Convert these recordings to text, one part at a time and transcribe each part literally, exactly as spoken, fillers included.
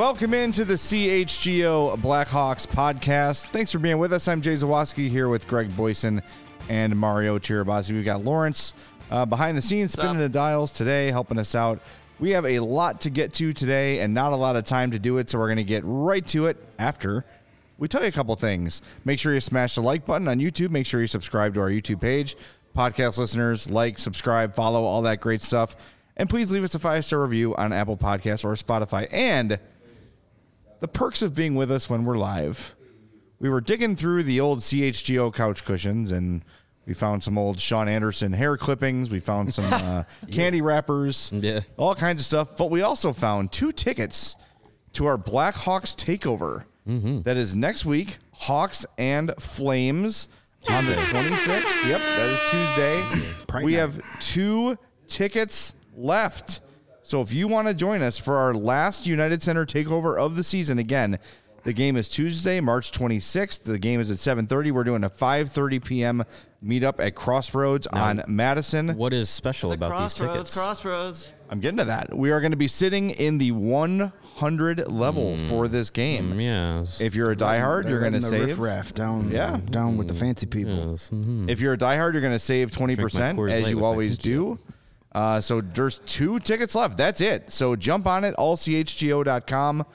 Welcome into the C H G O Blackhawks podcast. Thanks for being with us. I'm Jay Zawaski here with Greg Boyson and Mario Tirabassi. We've got Lawrence uh, behind the scenes, spinning the dials today, helping us out. We have a lot to get to today and not a lot of time to do it, so we're going to get right to it after we tell you a couple things. Make sure you smash the like button on YouTube. Make sure you subscribe to our YouTube page. Podcast listeners, like, subscribe, follow, all that great stuff. And please leave us a five-star review on Apple Podcasts or Spotify. And the perks of being with us when we're live. We were digging through the old C H G O couch cushions, and we found some old Sean Anderson hair clippings. We found some uh, candy wrappers, yeah. all kinds of stuff. But we also found two tickets to our Blackhawks takeover. Mm-hmm. That is next week, Hawks and Flames on the twenty-sixth. Yep, that is Tuesday. Pride we night. have two tickets left. So if you want to join us for our last United Center takeover of the season, again, the game is Tuesday, March twenty-sixth. The game is at seven thirty. We're doing a five thirty p.m. meetup at Crossroads Now, on Madison. What is special The about crossroads, these tickets? Crossroads. I'm getting to that. We are going to be sitting in the one hundred level Mm. for this game. Mm, yes. If you're a diehard, They're you're going to letting the save. riff-raff down, Yeah. down with the fancy people. Yes. Mm-hmm. If you're a diehard, you're going to save twenty percent, Coors as Light you with my always pinky do. Uh, so there's two tickets left. That's it. So jump on it, all c h g o dot com.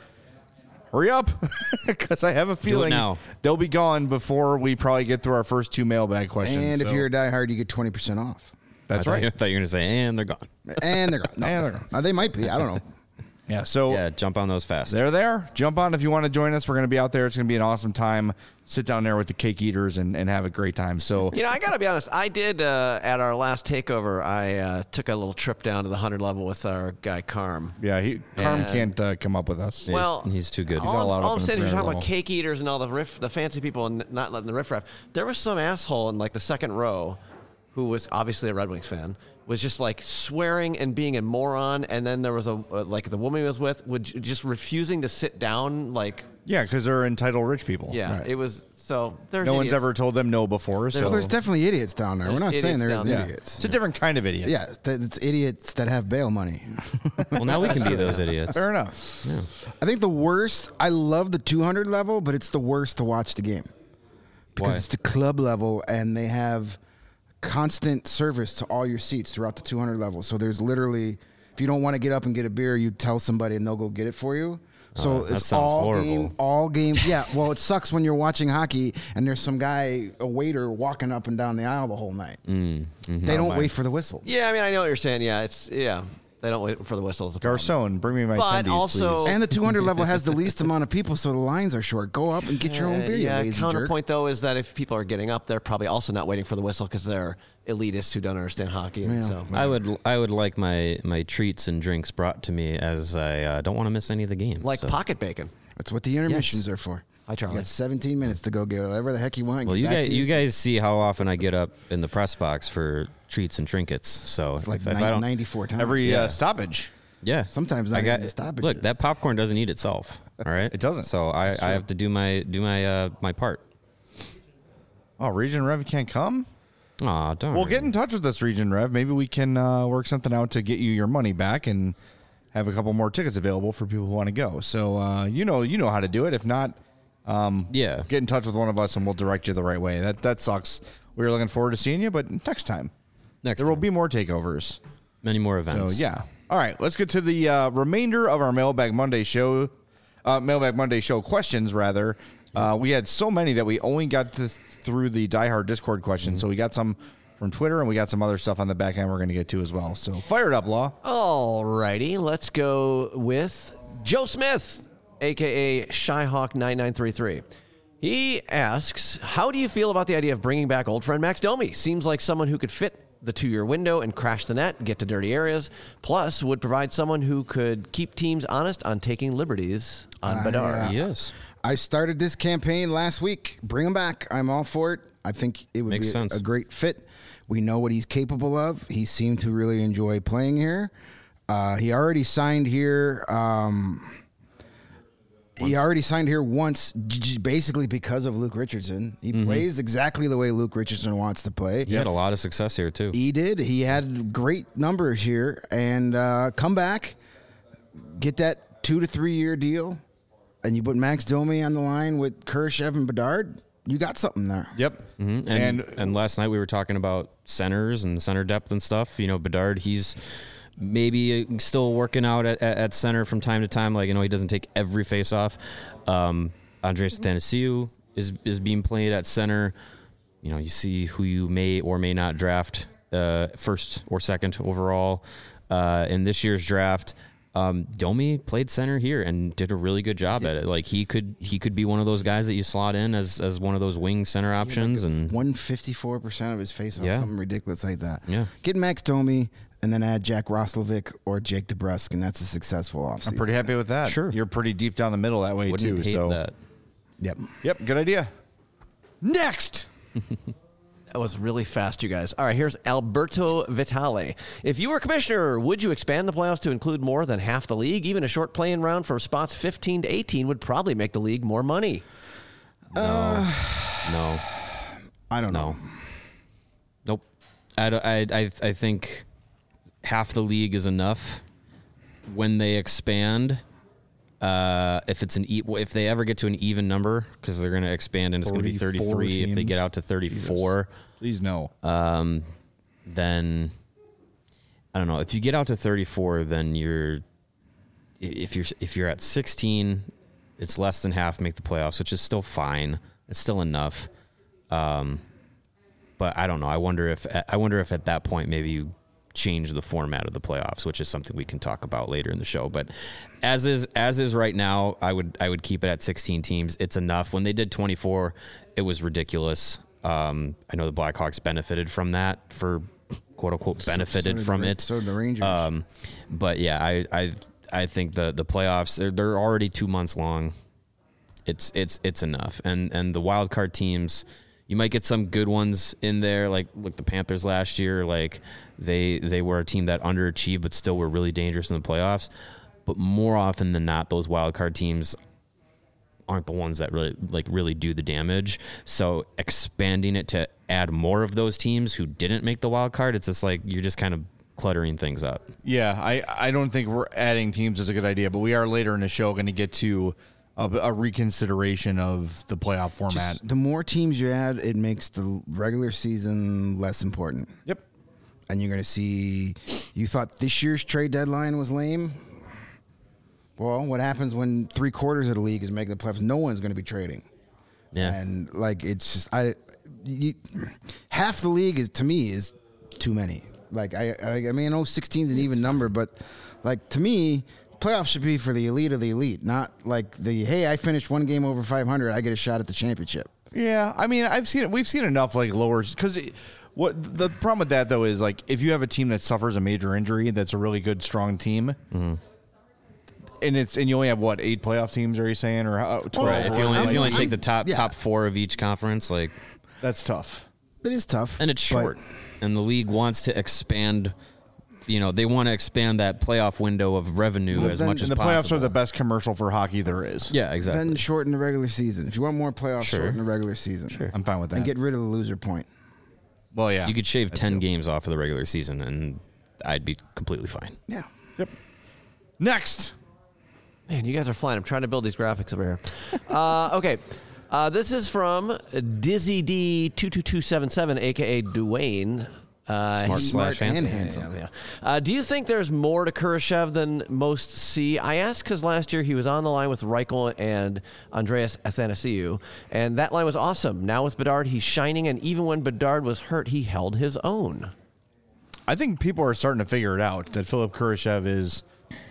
Hurry up, because I have a feeling now. they'll be gone before we probably get through our first two mailbag questions. And if So you're a diehard, you get twenty percent off. that's I thought, right. you- I thought you were going to say, and they're gone. And they're gone. No, And they're gone. Uh, they might be. I don't know. Yeah. So Yeah, jump on those fast. they're there. Jump on if you want to join us. We're going to be out there. It's going to be an awesome time. Sit down there with the cake eaters and, and have a great time. So You know, I got to be honest. I did, uh, at our last takeover, I uh, took a little trip down to the one hundred level with our guy, Carm. yeah, he, Carm Yeah. can't uh, come up with us. He's- Well, he's too good. got a All, lot I'm, up all I'm in saying is the you're talking level. about cake eaters and all the riff, the fancy people and not letting the riffraff. There was some asshole in like the second row who was obviously a Red Wings fan, was just like swearing and being a moron. And then there was a, uh, like the woman he was with, would j- just refusing to sit down. Like, Yeah, because they're entitled rich people. yeah, Right. it was, so there's No one's idiots. ever told them no before. So Well, there's definitely idiots down there. We're There's not saying idiots there down isn't there. idiots. it's a different kind of idiot. Yeah, th- it's idiots that have bail money. Well, now we can be those idiots. Fair enough. Yeah. I think the worst, I love the two hundred level, but it's the worst to watch the game. Because Why? it's the club level, and they have constant service to all your seats throughout the two hundred level. So there's literally, if you don't want to get up and get a beer, you tell somebody and they'll go get it for you. So Uh, that it's sounds all horrible. game, all game. Yeah, well, it sucks when you're watching hockey and there's some guy, a waiter, walking up and down the aisle the whole night. Mm, mm-hmm. They don't mind. wait for the whistle. Yeah, I mean, I know what you're saying. Yeah, it's, yeah. They don't wait for the whistles. Garcon, bring me my But tendies, also- please. And the two hundred level has the least amount of people, so the lines are short. Go up and get your own beer, you yeah, lazy counterpoint though is that if people are getting up, they're probably also not waiting for the whistle because they're elitists who don't understand hockey. And Yeah. so I would I would like my, my treats and drinks brought to me as I uh, don't want to miss any of the game. like so. pocket bacon. jerk. That's what the intermissions are for. Hi, Charlie. You got seventeen minutes to go get whatever the heck you want. Well, get you back guys to you your guys see how often I get up in the press box for treats and trinkets. So It's like if, if I nine- don't, ninety-four times. Every Yeah. uh, stoppage. yeah, Sometimes not I got even the stoppages. look that popcorn doesn't eat itself. All right, It doesn't. So I, I have to do my do my uh, my part. Oh, Region Rev can't come? Aw, darn. Well, get in touch with us, Region Rev. Maybe we can uh, work something out to get you your money back and have a couple more tickets available for people who want to go. So uh, you know you know how to do it. If not, um, Yeah. get in touch with one of us and we'll direct you the right way. That that sucks. We were looking forward to seeing you, but next time. Next there will time. be more takeovers. many more So events. yeah. All right, let's get to the uh, remainder of our Mailbag Monday show. Uh, Mailbag Monday show questions, rather. Uh, we had so many that we only got to through the Die Hard Discord questions. Mm-hmm. So we got some from Twitter and we got some other stuff on the back end we're going to get to as well. So fire it up, Law. All righty, let's go with Joe Smith, aka Shyhawk nine nine three three. He asks, "How do you feel about the idea of bringing back old friend Max Domi? Seems like someone who could fit the two-year window and crash the net, get to dirty areas, plus would provide someone who could keep teams honest on taking liberties on Uh, Bedard." yeah. Yes. I started this campaign last week. Bring him back. I'm all for it. I think it would Makes be sense. a great fit. We know what he's capable of. He seemed to really enjoy playing here. Uh, he already signed here. Um, he already signed here once, j- j- basically because of Luke Richardson. He Mm-hmm. plays exactly the way Luke Richardson wants to play. He had a lot of success here too. He did. He had great numbers here, and uh, come back, get that two to three year deal, and you put Max Domi on the line with Kurashev and Bedard, you got something there. Yep. Mm-hmm. And, and and last night we were talking about centers and center depth and stuff. You know, Bedard, he's maybe still working out at, at center from time to time. Like, you know, he doesn't take every face off. Um, Andreas Athanasiou is is being played at center. You know, you see who you may or may not draft uh, first or second overall uh, in this year's draft. Um, Domi played center here and did a really good job at it. Like he could he could be one of those guys that you slot in as as one of those wing center options. Like and one hundred fifty-four percent of his face-off, Yeah. something ridiculous like that. Yeah. Get Max Domi and then add Jack Roslovic or Jake DeBrusk, and that's a successful offseason. I'm pretty happy with that. Sure. You're pretty deep down the middle that way, wouldn't too. hate So, that. Yep. yep, good idea. Next. That was really fast, you guys. All right, here's Alberto Vitale. If you were commissioner, would you expand the playoffs to include more than half the league? Even a short play-in round from spots fifteen to eighteen would probably make the league more money. No. no. I don't No. know. Nope. I, don't- I, I, I think half the league is enough. When they expand, uh, if it's an e- if they ever get to an even number, because they're going to expand and it's going to be thirty-four thirty-three. If they teams. get out to thirty-four, Please no. um, then I don't know. If you get out to thirty-four, then you're if you're if you're at sixteen, it's less than half make the playoffs, which is still fine. It's still enough. Um, but I don't know. I wonder if I wonder if at that point maybe you change the format of the playoffs, which is something we can talk about later in the show. But as is as is right now, I would I would keep it at sixteen teams. It's enough. When they did twenty-four, it was ridiculous. Um, I know the Blackhawks benefited from that for quote unquote benefited so did from the, it. So did the Rangers. Um, but yeah, I I I think the the playoffs they're, they're already two months long. It's it's it's enough, and and the wild card teams, you might get some good ones in there, like like the Panthers last year. Like they they were a team that underachieved, but still were really dangerous in the playoffs. But more often than not, those wild card teams aren't the ones that really like really do the damage. So expanding it to add more of those teams who didn't make the wild card, it's just like you're just kind of cluttering things up. Yeah, I, I don't think we're adding teams is a good idea, but we are later in the show going to get to a, a reconsideration of the playoff format. Just the more teams you add, it makes the regular season less important. Yep. And you're going to see, you thought this year's trade deadline was lame? Well, what happens when three quarters of the league is making the playoffs? No one's going to be trading. Yeah. And like, it's just, I, you, half the league is, to me, is too many. Like, I, I, I mean, I know sixteen is an even number, but like, to me, playoffs should be for the elite of the elite, not like the, hey, I finished one game over five hundred, I get a shot at the championship. Yeah, I mean, I've seen it. We've seen enough like lower because what the problem with that though is like if you have a team that suffers a major injury that's a really good strong team, Mm-hmm. and it's and you only have what eight playoff teams? Are you saying or how, twelve? Right. If you only if you only take the top yeah. top four of each conference, like, That's tough. It is tough. and it's but- short, and the league wants to expand. You know, they want to expand that playoff window of revenue Well, as then- much as And the possible. playoffs are the best commercial for hockey there is. Yeah, exactly. Then shorten the regular season. If you want more playoffs, Sure. shorten the regular season. Sure. I'm fine with that. And get rid of the loser point. well, yeah, you could shave That's ten it. games off of the regular season, and I'd be completely fine. Yeah. Yep. Next. Man, you guys are flying. I'm trying to build these graphics over here. uh, okay. Uh, this is from Dizzy D two two two seven seven, a k a. Dwayne. Uh, Smart he- slash Smart and handsome. handsome. Yeah, yeah. Uh, do you think there's more to Kurashev than most see? I asked because last year he was on the line with Reichel and Andreas Athanasiou, and that line was awesome. Now with Bedard, he's shining, and even when Bedard was hurt, he held his own. I think people are starting to figure it out that Philip Kurashev is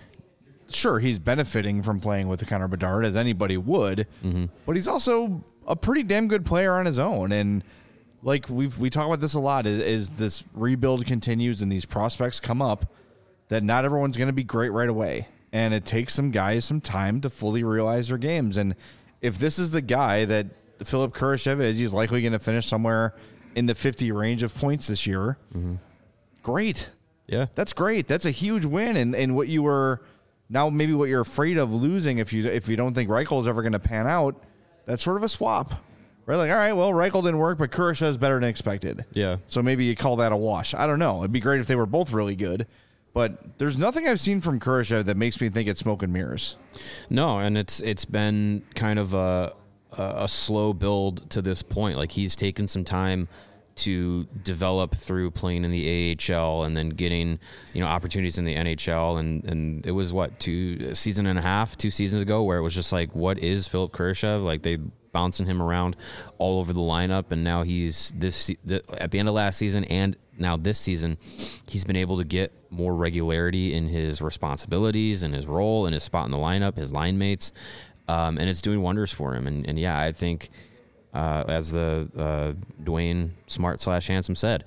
sure he's benefiting from playing with Connor Bedard as anybody would, Mm-hmm. but he's also a pretty damn good player on his own. And like we've we talk about this a lot is, is this rebuild continues and these prospects come up that not everyone's going to be great right away, and it takes some guys some time to fully realize their games. And if this is the guy that Philip Kurashev is, he's likely going to finish somewhere in the fifty range of points this year. Mm-hmm. Great. Yeah. That's great. That's a huge win, and, and what you were now maybe what you're afraid of losing if you if you don't think Reichel is ever going to pan out. That's sort of a swap, right? Like, all right, well, Reichel didn't work, but Kurashev is better than expected. Yeah. So maybe you call that a wash. I don't know. It'd be great if they were both really good, But there's nothing I've seen from Kurashev that makes me think it's smoke and mirrors. No, and it's it's been kind of a a slow build to this point. Like he's taken some time to develop through playing in the A H L and then getting, you know, opportunities in the N H L. And, and it was what, two a season and a half, two seasons ago, where it was just like, what is Philipp Kurashev? Like they bouncing him around all over the lineup. And now he's this the, at the end of last season and now this season, he's been able to get more regularity in his responsibilities and his role and his spot in the lineup, his line mates. Um, and it's doing wonders for him. And, and yeah, I think, uh, as the uh, Dwayne Smart slash Handsome said,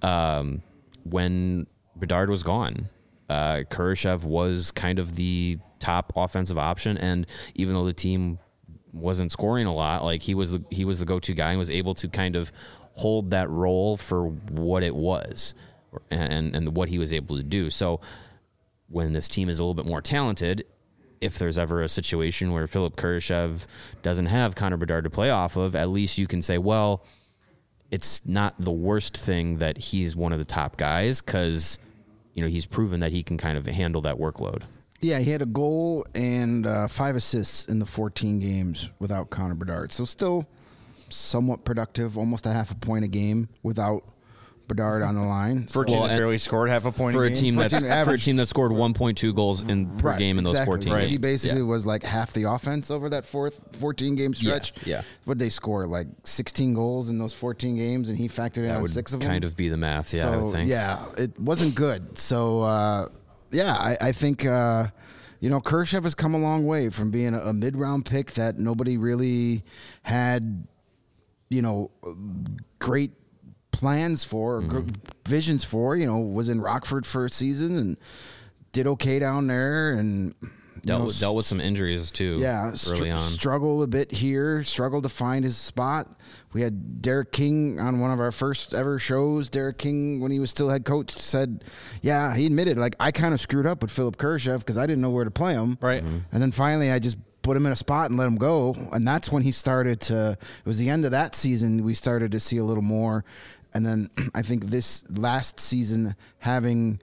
um, when Bedard was gone, uh, Kurashev was kind of the top offensive option. And even though the team wasn't scoring a lot, like he was the, he was the go-to guy and was able to kind of hold that role for what it was and, and what he was able to do. So when this team is a little bit more talented, if there's ever a situation where Philipp Kurashev doesn't have Connor Bedard to play off of, at least you can say, well, it's not the worst thing that he's one of the top guys because, you know, he's proven that he can kind of handle that workload. Yeah, he had a goal and uh, five assists in the fourteen games without Connor Bedard. So still somewhat productive, almost a half a point a game without Bedard on the line. For a team Well, that barely scored half a point For a a game. team For a that's team for a average- team that scored one point two goals in per Right, game in those exactly. fourteen. So games. he basically Yeah. was like half the offense over that fourth fourteen game stretch. yeah. What'd they score? Like sixteen goals in those fourteen games, and he factored in That on would six of them. kind of be the math, yeah, I So would think. yeah, it wasn't good. So uh, yeah, I, I think uh, you know Kurashev has come a long way from being a, a mid round pick that nobody really had, you know, great plans for, or Mm-hmm. gr- visions for. You know, was in Rockford for a season and did okay down there, and you Dealt, know, with, dealt with some injuries, too, yeah, early str- on. struggle a bit here, struggled to find his spot. We had Derek King on one of our first ever shows. Derek King, when he was still head coach, said, yeah, he admitted, like, I kind of screwed up with Philipp Kurashev because I didn't know where to play him. Right. Mm-hmm. And then finally I just put him in a spot and let him go. And that's when he started to, it was the end of that season, we started to see a little more. And then I think this last season, having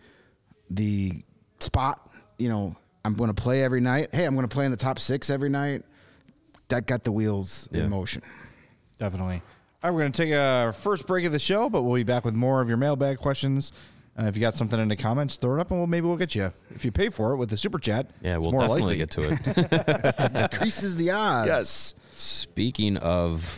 the spot, you know, I'm going to play every night. Hey, I'm going to play in the top six every night. That got the wheels Yeah. in motion. Definitely. All right, we're going to take a first break of the show, but we'll be back with more of your mailbag questions. Uh, if you got something in the comments, throw it up, and we'll, maybe we'll get you. If you pay for it with the super chat, Yeah, it's we'll more definitely likely. get to it. Increases the odds. Yes. Speaking of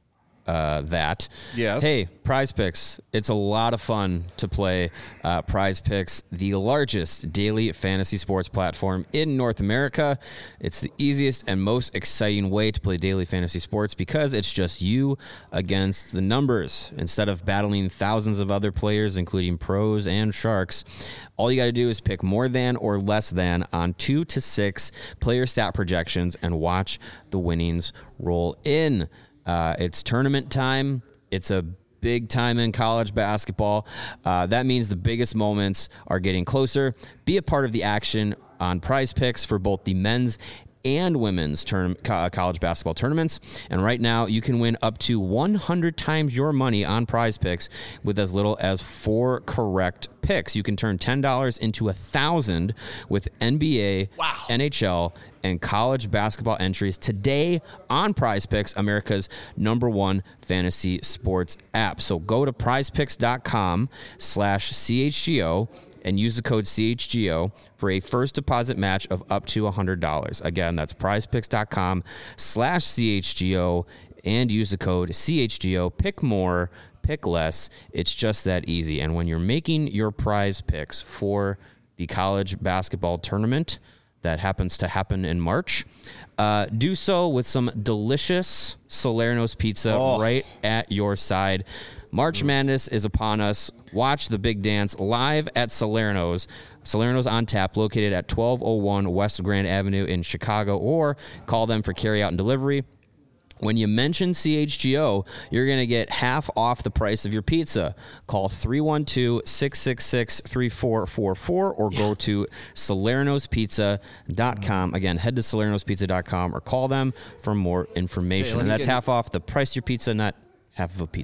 uh, that, Yes. Hey, Prize Picks. It's a lot of fun to play uh, Prize Picks, the largest daily fantasy sports platform in North America. It's the easiest and most exciting way to play daily fantasy sports because it's just you against the numbers. Instead of battling thousands of other players, including pros and sharks, all you got to do is pick more than or less than on two to six player stat projections and watch the winnings roll in. Uh, it's tournament time. It's a big time in college basketball. Uh, that means the biggest moments are getting closer. Be a part of the action on Prize Picks for both the men's and women's term, co- college basketball tournaments. And right now, you can win up to one hundred times your money on Prize Picks with as little as four correct picks. You can turn ten dollars into one thousand dollars with N B A, wow. N H L, and college basketball entries today on Prize Picks, America's number one fantasy sports app. So go to prizepicks.com slash CHGO and use the code C H G O for a first deposit match of up to one hundred dollars. Again, that's prizepicks.com slash CHGO and use the code C H G O. Pick more, pick less. It's just that easy. And when you're making your prize picks for the college basketball tournament that happens to happen in March, uh, do so with some delicious Salerno's pizza Oh. right at your side. March Madness is upon us. Watch the big dance live at Salerno's. Salerno's on tap, located at twelve oh one West Grand Avenue in Chicago, or call them for carryout and delivery. When you mention C H G O, you're going to get half off the price of your pizza. Call three one two, six six six, three four four four or go to salernos pizza dot com. Again, head to salernos pizza dot com or call them for more information. Okay, and let's that's get- half off the price of your pizza, not half of a pizza.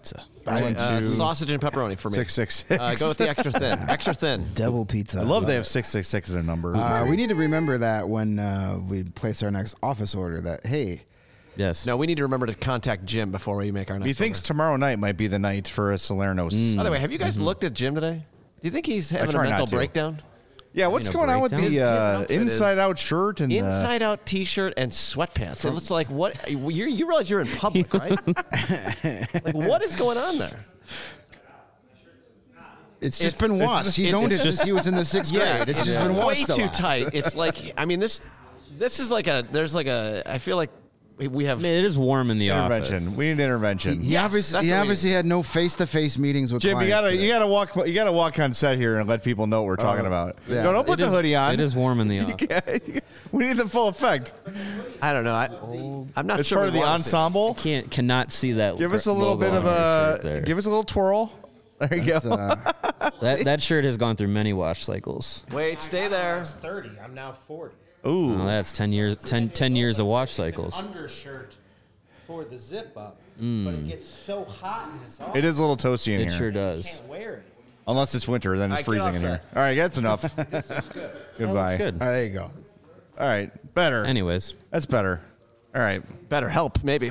I went Uh, to sausage and pepperoni for me. six six six. Uh, go with the extra thin. Extra thin. Devil pizza. I love they have six six six as a number. Uh, we need to remember that when uh, we place our next office order. That hey, Yes. No, we need to remember to contact Jim before we make our next he thinks order. tomorrow night might be the night for a Salerno. By the way, have you guys looked at Jim today? Do you think he's having a try not mental to. breakdown? Yeah, what's mean, a going on with breakdown? the His- his uh, outfit is inside out shirt and the, Inside out T-shirt and sweatpants. So it's like, what? You you realize you're in public, right? Like, what is going on there? it's just It's- been it's washed. just- He's it's owned it just- since he was in the sixth grade. It's just been way washed. a too lot. tight. It's like, I mean, this this is like a. There's like a. I feel like we have. I mean, it is warm in the intervention. office. We need intervention. He Yes, obviously, that's he what we obviously had no face-to-face meetings with Jim, you clients gotta today. you gotta walk you gotta walk on set here and let people know what we're talking about. yeah. No, don't put It the is- hoodie on. It is warm in the office. We need the full effect. I don't know. I, I'm not It's sure. part of we the wanna see it. ensemble. Can't cannot see that. Give us a little logo bit of on your a shirt there. give us a little twirl. There you It's, go. uh, that that shirt has gone through many wash cycles. Wait, stay there. thirty. I'm now forty. Ooh, Oh, that's ten years. ten, ten years of wash cycles. Undershirt for the zip up, but it gets so hot in this office. it is a little toasty in It here. sure does. Can't wear it. Unless it's winter, then it's All right, get freezing off in set. here. All right, that's enough. This is good. Goodbye. That's good. uh, there you go. All right, better. Anyways, That's better. All right, Better help, maybe.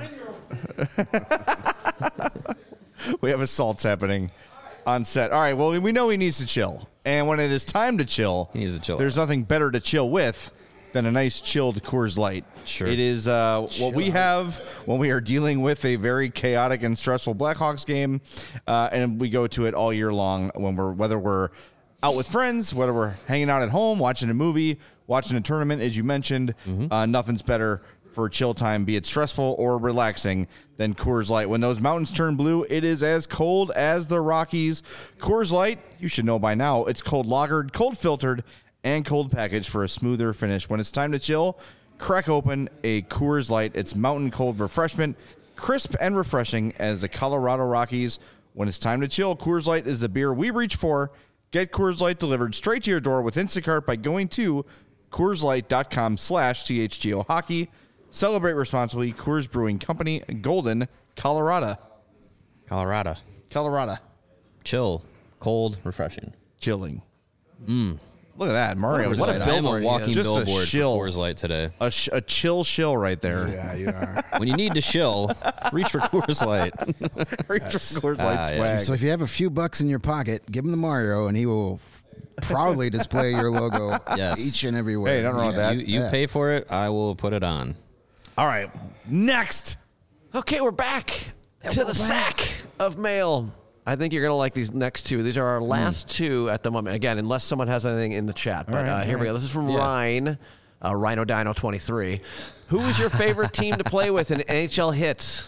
we have assaults happening on set. All right, well, we know he needs to chill, and when it is time to chill, He needs to chill There's out. nothing better to chill with than a nice chilled Coors Light. Sure. It is uh, what we have when we are dealing with a very chaotic and stressful Blackhawks game, uh, and we go to it all year long. When we're whether we're out with friends, whether we're hanging out at home, watching a movie, watching a tournament, as you mentioned, uh, nothing's better for chill time, be it stressful or relaxing, than Coors Light. When those mountains turn blue, it is as cold as the Rockies. Coors Light, you should know by now, it's cold lagered, cold filtered, and cold packaged for a smoother finish. When it's time to chill, crack open a Coors Light. It's mountain cold refreshment, crisp and refreshing as the Colorado Rockies. When it's time to chill, Coors Light is the beer we reach for. Get Coors Light delivered straight to your door with Instacart by going to CoorsLight.com slash CHGO Hockey. Celebrate responsibly. Coors Brewing Company, Golden, Colorado. Colorado, Colorado. chill, cold, refreshing. Chilling. Look at that. Mario. Coors What Light. a I am a billboard he walking is. Just a billboard shill. for Coors Light today. A, sh- a chill shill right there. Yeah, you are. When you need to chill, reach for Coors Light. Reach for Coors Light Ah, yeah. swag. So if you have a few bucks in your pocket, give him the Mario, and he will proudly display your logo Yes. each and every way. Hey, nothing wrong with that. You, you Yeah. pay for it, I will put it on. All right. Next. Okay, we're back to the sack of mail. I think you're going to like these next two. These are our last two at the moment. Again, unless someone has anything in the chat. But right, uh, here all we go. right. This is from Yeah. Ryan, uh, Rhino Dino twenty-three. Who is your favorite team to play with in N H L hits?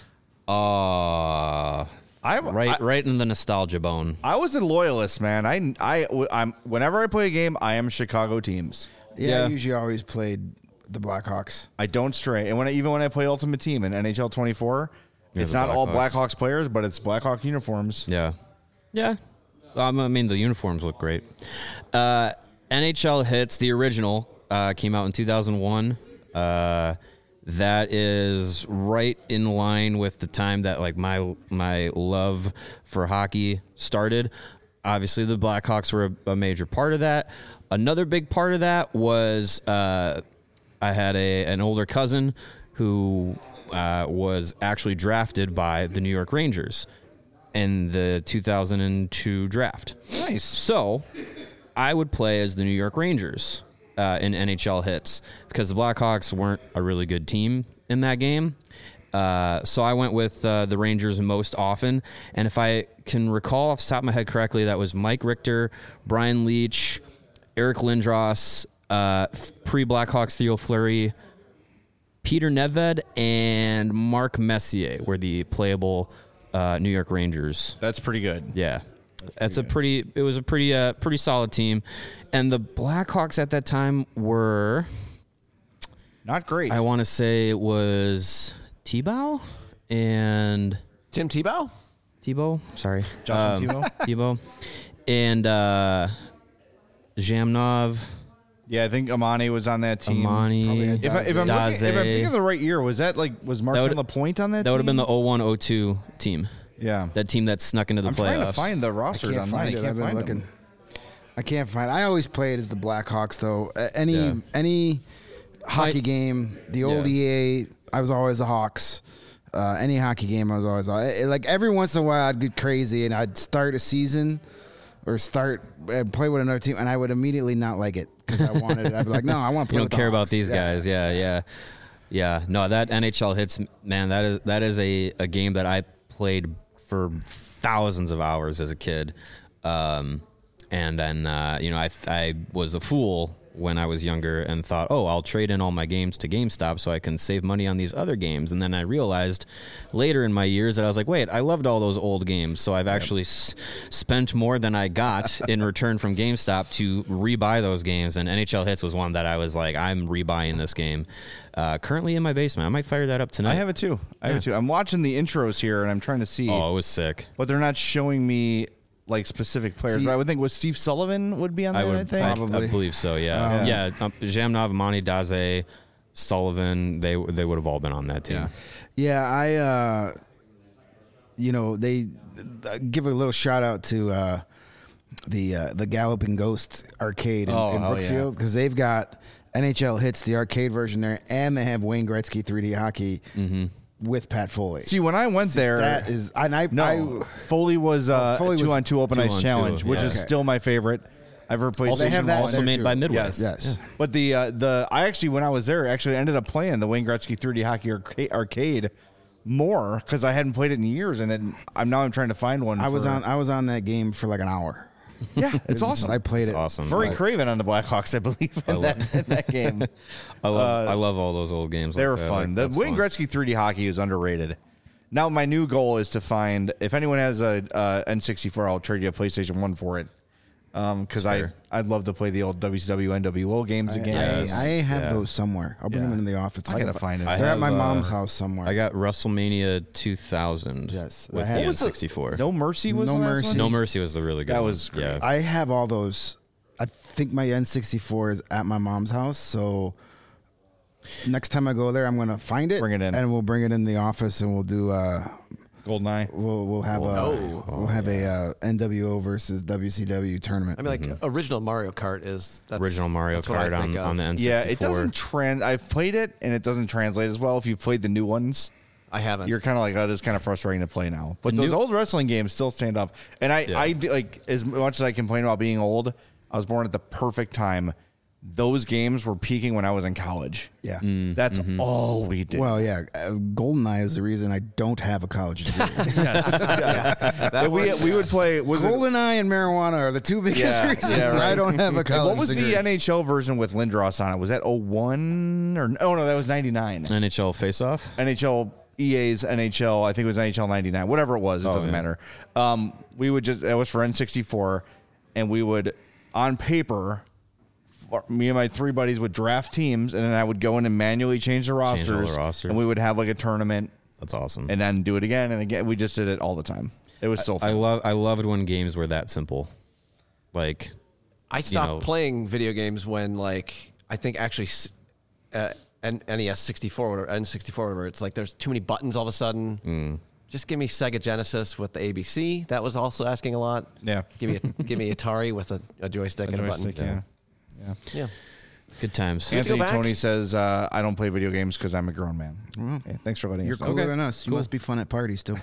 Uh, I'm right, I, right in the nostalgia bone. I was a loyalist, man. I, I, I'm. Whenever I play a game, I am Chicago teams. Yeah, Yeah. I usually always played the Blackhawks. I don't stray. And when I, even when I play Ultimate Team in N H L twenty-four, You're it's the not all Blackhawks. Blackhawks players, but it's Blackhawk uniforms. Yeah. Yeah. Um, I mean, the uniforms look great. Uh, N H L Hits, the original, uh, came out in two thousand one. Uh, that is right in line with the time that like my my love for hockey started. Obviously, the Blackhawks were a, a major part of that. Another big part of that was uh, I had a an older cousin who uh, was actually drafted by the New York Rangers in the two thousand two draft. Nice. So I would play as the New York Rangers uh, in N H L hits because the Blackhawks weren't a really good team in that game. Uh, so I went with uh, the Rangers most often. And if I can recall off the top of my head correctly, that was Mike Richter, Brian Leach, Eric Lindros, uh, pre-Blackhawks Theo Fleury, Peter Nedved, and Mark Messier were the playable uh, New York Rangers. That's pretty good. Yeah, that's, a pretty. It was a pretty, uh, pretty solid team, and the Blackhawks at that time were. Not great. I want to say it was Tebow and Tim Tebow? Tebow. Sorry, Justin Um, Tebow, and uh, Zhamnov, yeah, I think Amani was on that team. Amani. had If, I, if, I'm Daze. looking, if I'm thinking of the right year, was that like was Martin would- Lapointe on that? That would have team? been the oh one oh two team. Yeah. That team that snuck into the I'm playoffs. trying to find the I rosters can't online. find I it. can't I've been find looking. them. I can't find. I always played as the Blackhawks though. Uh, any Yeah. any hockey I- game, the old Yeah. E A, I was always the Hawks. Uh, any hockey game, I was always I- like every once in a while I'd get crazy and I'd start a season or start and play with another team and I would immediately not like it because I wanted. I'd be like, no, I want to play. You don't with the care about Hawks. these Yeah. guys. Yeah, yeah, yeah. No, that N H L hits, man. That is that is a, a game that I played for thousands of hours as a kid, um, and then uh, you know I I was a fool when I was younger and thought, oh, I'll trade in all my games to GameStop so I can save money on these other games. And then I realized later in my years that I was like, wait, I loved all those old games. So I've actually s- spent more than I got in return from GameStop to rebuy those games. And N H L Hits was one that I was like, I'm rebuying this game. Uh, currently in my basement. I might fire that up tonight. I have it too. I have it too. I'm watching the intros here and I'm trying to see, Oh, it was sick. but they're not showing me like specific players. See- but I would think was Steve Sullivan would be on I that. I, would think. I, Probably. I believe so. Yeah, Um, yeah. Um, Jamnov, Monty Daze, Sullivan. They they would have all been on that team. Yeah. Yeah, I, uh, you know, they uh, give a little shout out to uh, the uh, the Galloping Ghost arcade in, Oh, in hell Brookfield because they've got N H L Hits, the arcade version there, and they have Wayne Gretzky three D hockey with Pat Foley. See, when I went there, that is, and I, no, I Foley was uh, Foley two was on two open two ice on two, challenge, which yeah. is Okay. still my favorite. I've ever played. Oh, they have that Also there made too. by Midway. Yes. yes. But the uh, the I actually when I was there actually ended up playing the Wayne Gretzky three D hockey arca- arcade more because I hadn't played it in years, and it, I'm now I'm trying to find one. I was for- on I was on that game for like an hour. Yeah, it's awesome. I played It's it. awesome. Very Like, Craven on the Blackhawks, I believe, in, that, in that game. I love Uh, I love all those old games. They like were that. fun. Like, the that's Wayne fun. Gretzky three D hockey is underrated. Now my new goal is to find if anyone has a uh, N sixty-four, I'll trade you a PlayStation one for it. Because I Fair. I'd love to play the old W C W N W O games I, again. I, I have Yeah. those somewhere. I'll bring Yeah. them in the office. I gotta find it. I They're have, at my uh, mom's house somewhere. I got WrestleMania two thousand. Yes, I with have- the What was N it? sixty-four. No Mercy was No the last Mercy. one? No Mercy was the really good That one. was great. Yeah. I have all those. I think my N sixty-four is at my mom's house. So next time I go there, I'm gonna find it, Bring it in. and we'll bring it in the office, and we'll do. Uh, Goldeneye. we'll we'll have a Oh. we'll have a uh, N W O versus W C W tournament. I mean, like original Mario Kart is that's, Original Mario that's what I Kart think on, of. on the N sixty-four. Yeah, it doesn't trans. I've played it and it doesn't translate as well. If you've played the new ones, I haven't. you're kind of like, oh, it's kind of frustrating to play now. But The those new- old wrestling games still stand up. And I, Yeah. I do, like as much as I complain about being old, I was born at the perfect time. Those games were peaking when I was in college. yeah. That's all we did. Well, yeah. Uh, GoldenEye is the reason I don't have a college degree. And we we would play. Was it- GoldenEye and marijuana are the two biggest Yeah, reasons yeah, right. I don't have a college what was degree. the N H L version with Lindros on it? Was that oh one or oh no, that was ninety-nine. N H L face-off. N H L E A's N H L, I think it was N H L ninety-nine, whatever it was, it Oh, doesn't yeah. matter. Um, we would just, it was for N sixty-four, and we would, on paper, for- me and my three buddies would draft teams, and then I would go in and manually change the Change all the rosters, rosters. and we would have like a tournament, That's awesome. and then do it again, and again. We just did it all the time. It was so I fun. love I loved when games were that simple. Like I stopped know- playing video games when, like, I think actually s- uh, N- NES sixty-four or N sixty-four, whatever. It's like there's too many buttons all of a sudden. Mm. Just give me Sega Genesis with the A B C. That was also asking a lot. Yeah. Give me a, give me Atari with a, a joystick and a button. Joystick, yeah. Yeah. Yeah. good times. have to go Anthony back? Tony says, uh, I don't play video games because I'm a grown man. Yeah, thanks for letting You're us know. cooler Okay, than us. You cool. must be fun at parties too.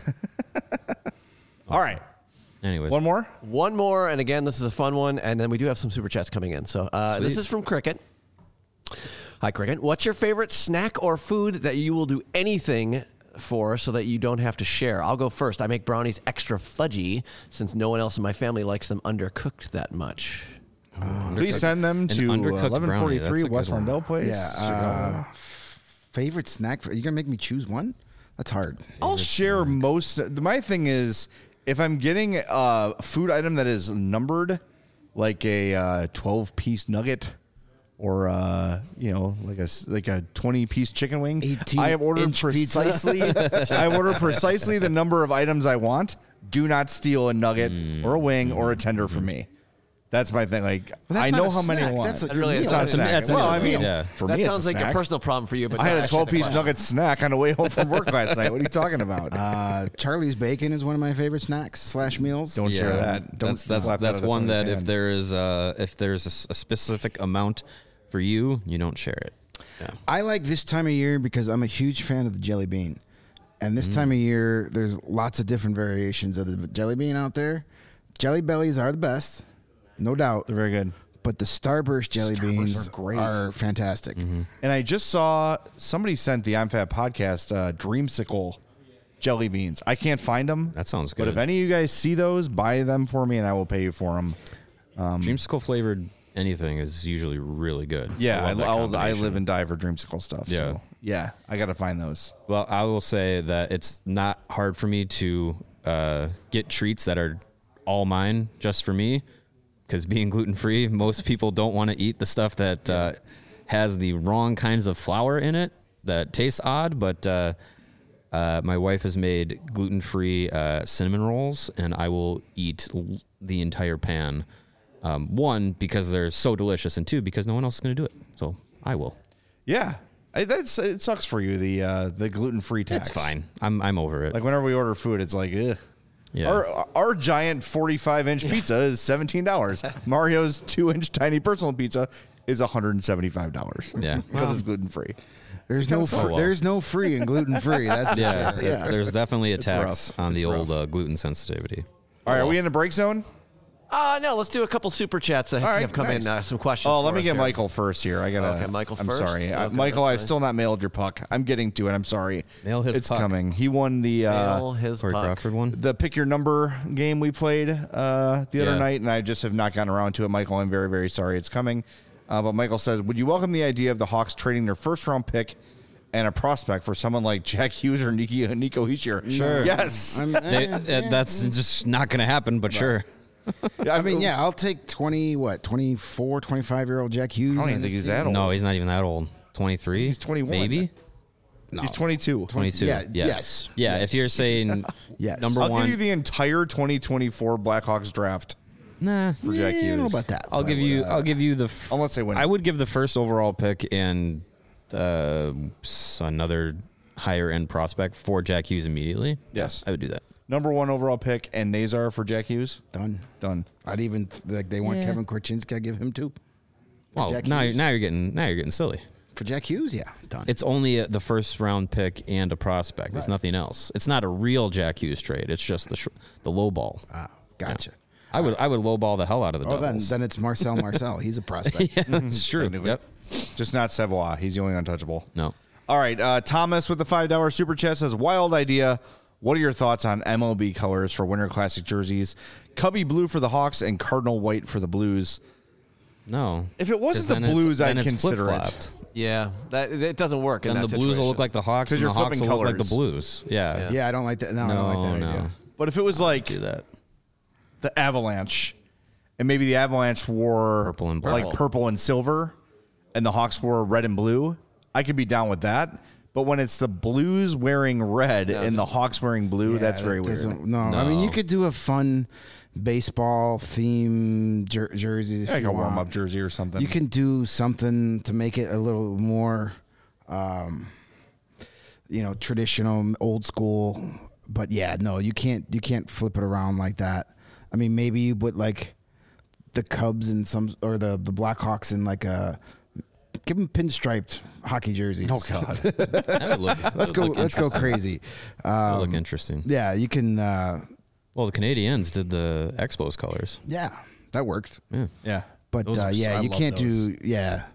All right. Anyways, One more? One more, and again, this is a fun one, and then we do have some super chats coming in. So uh, this Sweet. is from Cricket. Hi, Cricket. What's your favorite snack or food that you will do anything for so that you don't have to share? I'll go first. I make brownies extra fudgy since no one else in my family likes them undercooked that much. Please send them An to undercooked eleven forty-three forty-three that's a good West one. Rondell Place. yeah. Uh, f- favorite snack? You're gonna make me choose one? That's hard. I'll share most. My thing is, if I'm getting a food item that is numbered, like a uh, twelve piece nugget, or uh, you know, like a s- like a twenty piece chicken wing, eighteen I have ordered inch pizza. precisely. I have ordered precisely the number of items I want. Do not steal a nugget or a wing or a tender from me. That's my thing. Like, that's I not know a how many I snack. want. That's a- That really it's is. not a That's a- snack. that's a well, I meal. mean, Yeah. for that me, sounds it's a like snack. a personal problem for you. But I had not a actually the twelve-piece question. nugget snack on the way home from work last night. What are you talking about? Uh, Charlie's Bacon is one of my favorite snacks slash meals. Don't share that. Don't That's that's slap that that's out of one that somebody's if hand. there is uh if there's a s- a, specific amount for you, you don't share it. Yeah. I like this time of year because I'm a huge fan of the jelly bean. And this time of year, there's lots of different variations of the jelly bean out there. Jelly bellies are the best, no doubt. They're very good. But the Starburst jelly Starburst beans are great. are fantastic. And I just saw somebody sent the I'm Fat podcast uh, Dreamsicle jelly beans. I can't find them. That sounds But good. if any of you guys see those, buy them for me, and I will pay you for them. Dreamsicle flavored anything is usually really good. Yeah, I, love that I'll, I combination. live and die for Dreamsicle stuff. Yeah. So, yeah, I got to find those. Well, I will say that it's not hard for me to uh, get treats that are all mine just for me, because being gluten free, most people don't want to eat the stuff that uh, has the wrong kinds of flour in it that tastes odd. But uh, uh, my wife has made gluten free uh, cinnamon rolls, and I will eat l- the entire pan. Um, one, because they're so delicious, and two, because no one else is going to do it. So I will. Yeah, I, that's it. Sucks for you the uh, the gluten free tax. It's fine. I'm I'm over it. Like whenever we order food, it's like, ugh. Yeah. Our our giant forty-five inch pizza is seventeen dollars. Mario's two inch tiny personal pizza is one hundred seventy-five dollars. Yeah. because it's gluten free. There's no sucks. fr- well. there's no free and gluten free. That's for Yeah, sure. it's- there's definitely a It's tax rough. on It's the old rough. uh, gluten sensitivity. All right, are we in the break zone? Uh, no, let's do a couple super chats that All right, have come nice. in. Uh, some questions. Oh, let for me us get here. Michael first here. I gotta. Okay, Michael I'm first? sorry, Uh, Okay, Michael. that's I've fine. still not mailed your puck. I'm getting to it. I'm sorry. Mail his It's puck. coming. He won the uh, Mail his Corey puck. Crawford one. the pick your number game we played uh, the other Yeah. night, and I just have not gotten around to it. Michael, I'm very very sorry. It's coming. Uh, but Michael says, would you welcome the idea of the Hawks trading their first round pick and a prospect for someone like Jack Hughes or Nico, Nico Hischier? Sure. Yes. I'm- They, eh, uh, eh, that's just not going to happen. But sure. I mean, yeah, I'll take twenty, what, twenty-four, twenty-five year old Jack Hughes. I don't on even think this he's team. that old. No, he's not even that old. twenty-three. He's twenty-one. Maybe. He's twenty-two. twenty-two. Yeah, Yeah. yes. Yeah. Yes. If you're saying Yes. number I'll one, give you the entire twenty twenty-four Blackhawks draft nah. for Jack Eh, I Hughes. don't know about that. I'll but, give you. uh, I'll give you the. F- Unless they win. I would give the first overall pick and uh, s- another higher end prospect for Jack Hughes immediately. Yes. I would do that. Number one overall pick and Nazar for Jack Hughes. Done. Done. I'd even like they want Yeah. Kevin Korchinski. I'd give him two. Well, Jack now, Hughes. now you're getting now you're getting silly. For Jack Hughes, yeah, done. It's only a, the first round pick and a prospect. It's Right. nothing else. It's not a real Jack Hughes trade. It's just the sh- the low ball. ah, gotcha. I would I would low ball the hell out of the Oh, then Devils. then it's Marcel Marcel. He's a prospect. yeah, that's true. Technically. Yep. Just not Savoie. He's the only untouchable. No. All right. Uh, Thomas with the five dollar super chat says, wild idea. What are your thoughts on M L B colors for Winter Classic jerseys? Cubby blue for the Hawks and Cardinal white for the Blues. No. If it wasn't 'Cause the then it's- Blues, then I'd it's consider it. flip-flopped. Yeah, that it doesn't work. in Then that the Blues will situation. look like the Hawks, 'Cause and you're the Hawks flipping will look like the colors. Blues. Yeah. Yeah. Yeah, I don't like that. No, I No, don't like that no. idea. But if it was like Do that. the Avalanche, and maybe the Avalanche wore Purple and black. like purple and silver, and the Hawks wore red and blue, I could be down with that. But when it's the Blues wearing red No, and the just- Hawks wearing blue, Yeah, that's that very weird. doesn't- No, I mean No. you could do a fun baseball theme jer- jerseys. If Like you a want. warm up jersey or something. You can do something to make it a little more, um, you know, traditional, old school. But yeah, no, you can't. You can't flip it around like that. I mean, maybe you put like the Cubs and some, or the the Blackhawks in like a. Give them pinstriped hockey jerseys. Oh God. That would look, that let's would go. look Let's go interesting. crazy. That would Um, look interesting. yeah, you can. Uh, Well, the Canadians did the Expos colors. yeah, that worked. Yeah. yeah. But Those uh, are- yeah, I you love can't those. do yeah.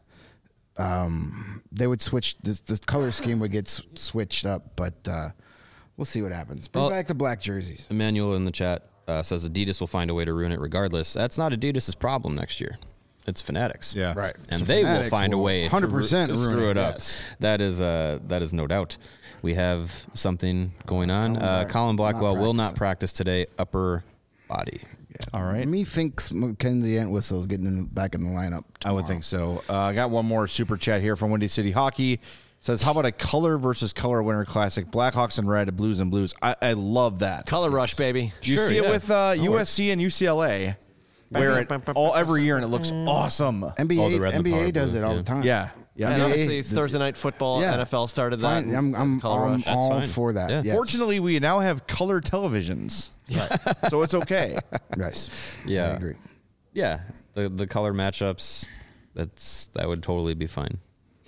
Um, they would switch this. The color scheme would get s- switched up, but uh, we'll see what happens. Bring Well- back the black jerseys. Emmanuel in the chat uh, says Adidas will find a way to ruin it regardless. That's not Adidas' problem next year. It's Fanatics. Yeah. Right. And So they will Fanatics find a will way to, one hundred ru- percent to ruin screw it up. yes. That is uh, that is no doubt. We have something going on. Colin Uh, Black- Colin Blackwell not will not practicing. practice today. Upper body. All right. Me thinks Mackenzie Entwistle is getting in, back in the lineup. I would tomorrow. think so. Uh, I got one more super chat here from Windy City Hockey. Says, how about a color versus color Winter Classic? Blackhawks and red, Blues and Blues. I, I love that. Color rush, baby. You Sure, see it yeah. with uh, That U S C and U C L A. wear it all every year, and it looks awesome. N B A, Oh, the red and the N B A power does blue, it all yeah. the time. Yeah, yeah. And Yeah. obviously, the- Thursday night football, Yeah. N F L started that. Fine. I'm, I'm, Color I'm Rush. all fine. for that. Yeah. Yes. Fortunately, we now have color televisions, so it's okay. Yes. Yeah. I agree. Yeah, the the color matchups, that's that would totally be fine.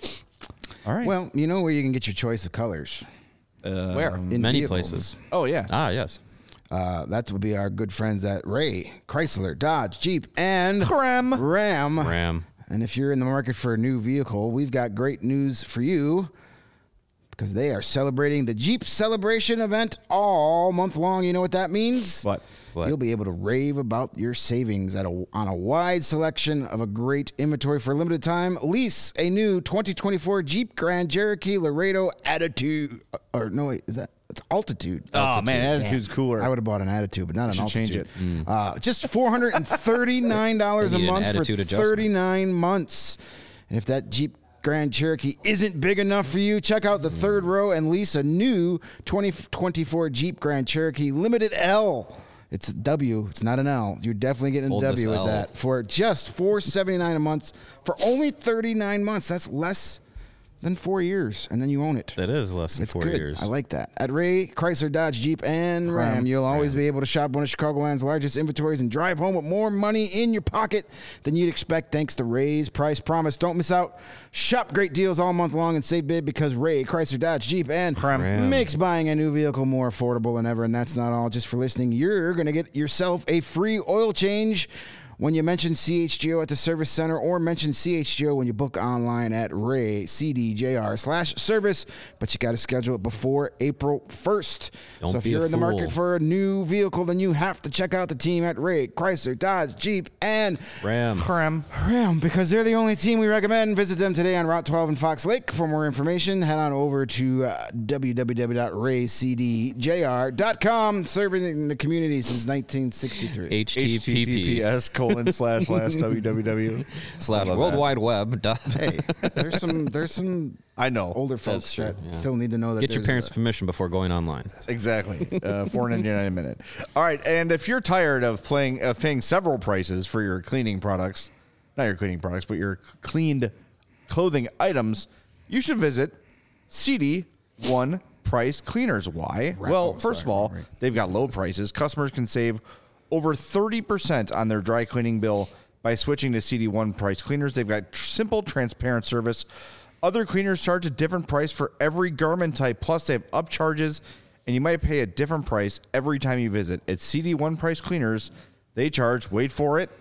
All right. Well, you know where you can get your choice of colors? Where? In Many vehicles. places. oh yeah. Ah, yes. Uh, that would be our good friends at Ray, Chrysler, Dodge, Jeep, and Ram. Ram. Ram. And if you're in the market for a new vehicle, we've got great news for you because they are celebrating the Jeep Celebration event all month long. You know what that means? What? What? You'll be able to rave about your savings at a, on a wide selection of a great inventory for a limited time. Lease a new twenty twenty-four Jeep Grand Cherokee Laredo Attitude. Or no, wait, is that? It's Altitude. Oh man, Altitude. attitude's Damn. cooler. I would have bought an Attitude, but not an should Altitude. change it. Uh, just four hundred thirty-nine dollars They a need an month for attitude adjustment. thirty-nine months. And if that Jeep Grand Cherokee isn't big enough for you, check out the third row and lease a new twenty twenty-four Jeep Grand Cherokee Limited L. It's a W. It's not an L. You're definitely getting a Hold W this with L. that for just four hundred seventy-nine dollars a month for only thirty-nine months. That's less than four years, and then you own it. That is less than It's four good. years. I like that. At Ray, Chrysler, Dodge, Jeep, and Ram, you'll always be able to shop one of Chicagoland's largest inventories and drive home with more money in your pocket than you'd expect thanks to Ray's Price Promise. Don't miss out. Shop great deals all month long and save big because Ray, Chrysler, Dodge, Jeep, and Ram. makes buying a new vehicle more affordable than ever. And that's not all. Just for listening, you're going to get yourself a free oil change when you mention C H G O at the service center, or mention C H G O when you book online at Ray C D J R slash service. But you got to schedule it before April first. Don't so if be a you're in the market fool. for a new vehicle, then you have to check out the team at Ray, Chrysler, Dodge, Jeep, and Ram. Ram. Ram, because they're the only team we recommend. Visit them today on Route twelve in Fox Lake. For more information, head on over to uh, w w w dot ray c d j r dot com, serving the community since nineteen sixty-three. H T T P P https colon slash slash www slash I love World that. Wide Web. dot- Hey, there's some there's some I know. older folks true, that yeah. still need to know that Get your there's parents' a- permission before going online. Exactly. Uh, four ninety-nine a minute. All right, and if you're tired of playing of paying several prices for your cleaning products, not your cleaning products, but your cleaned clothing items, you should visit C D One Price Cleaners. Why? Right. Well, Oh, first sorry, of all, right. they've got low prices. Customers can save over thirty percent on their dry cleaning bill by switching to C D One Price Cleaners. They've got tr- simple, transparent service. Other cleaners charge a different price for every garment type. Plus, they have upcharges, and you might pay a different price every time you visit. At C D One Price Cleaners, they charge, wait for it,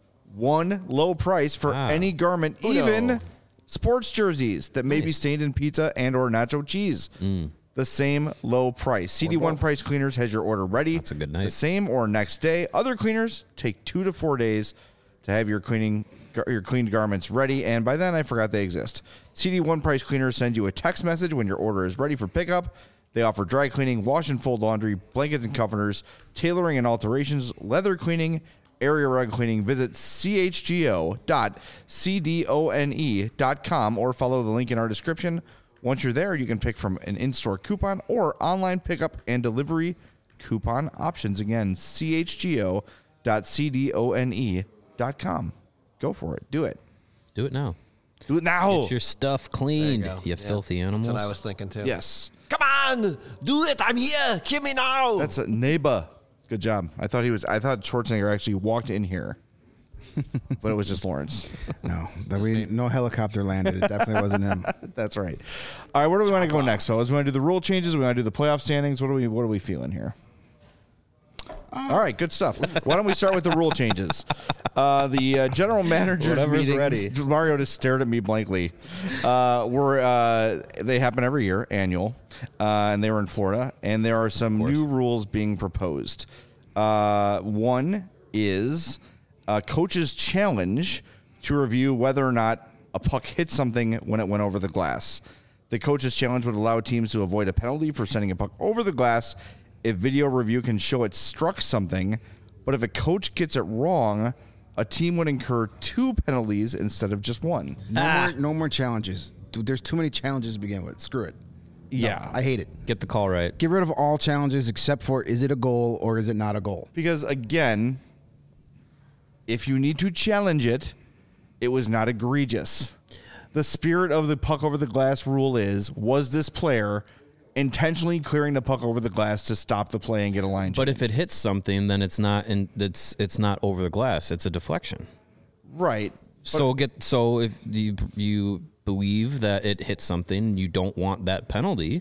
one low price for Wow. any garment, Uno. even sports jerseys that may be stained in pizza and or nacho cheese. The same low price. C D One Price Cleaners has your order ready. That's a good night. The same or next day. Other cleaners take two to four days to have your cleaning your cleaned garments ready, and by then I forgot they exist. C D One Price Cleaners send you a text message when your order is ready for pickup. They offer dry cleaning, wash and fold laundry, blankets and comforters, tailoring and alterations, leather cleaning, area rug cleaning. Visit c h g o dot c d o n e dot com or follow the link in our description. Once you're there, you can pick from an in-store coupon or online pickup and delivery coupon options. Again, c h g o dot c d o n e dot com. Go for it. Do it. Do it now. Do it now. Get your stuff cleaned, There you you, go. Yeah. filthy animals. That's what I was thinking too. Yes. Come on, do it. I'm here. Give me now. That's a neighbor. Good job. I thought he was. I thought Schwarzenegger actually walked in here, but it was just Lawrence. No, that we no helicopter landed. It definitely wasn't him. That's right. All right, where do we want to go next, fellas? We want to do the rule changes. We want to do the playoff standings. What are we? What are we feeling here? All right, good stuff. Why don't we start with the rule changes? Uh, the uh, general manager's Whatever's meetings. ready. Mario just stared at me blankly. Uh, were uh, they happen every year, annual, uh, and they were in Florida. And there are some new rules being proposed. Uh, one is a coach's challenge to review whether or not a puck hit something when it went over the glass. The coach's challenge would allow teams to avoid a penalty for sending a puck over the glass if video review can show it struck something. But if a coach gets it wrong, a team would incur two penalties instead of just one. No more, no more challenges. Dude, there's too many challenges to begin with. Screw it. Yeah. I hate it. Get the call right. Get rid of all challenges except for is it a goal or is it not a goal? Because, again, if you need to challenge it, it was not egregious. The spirit of the puck over the glass rule is, was this player intentionally clearing the puck over the glass to stop the play and get a line change? But if it hits something, then it's not in, it's it's not over the glass. It's a deflection. Right. So get so if you you believe that it hit something, you don't want that penalty.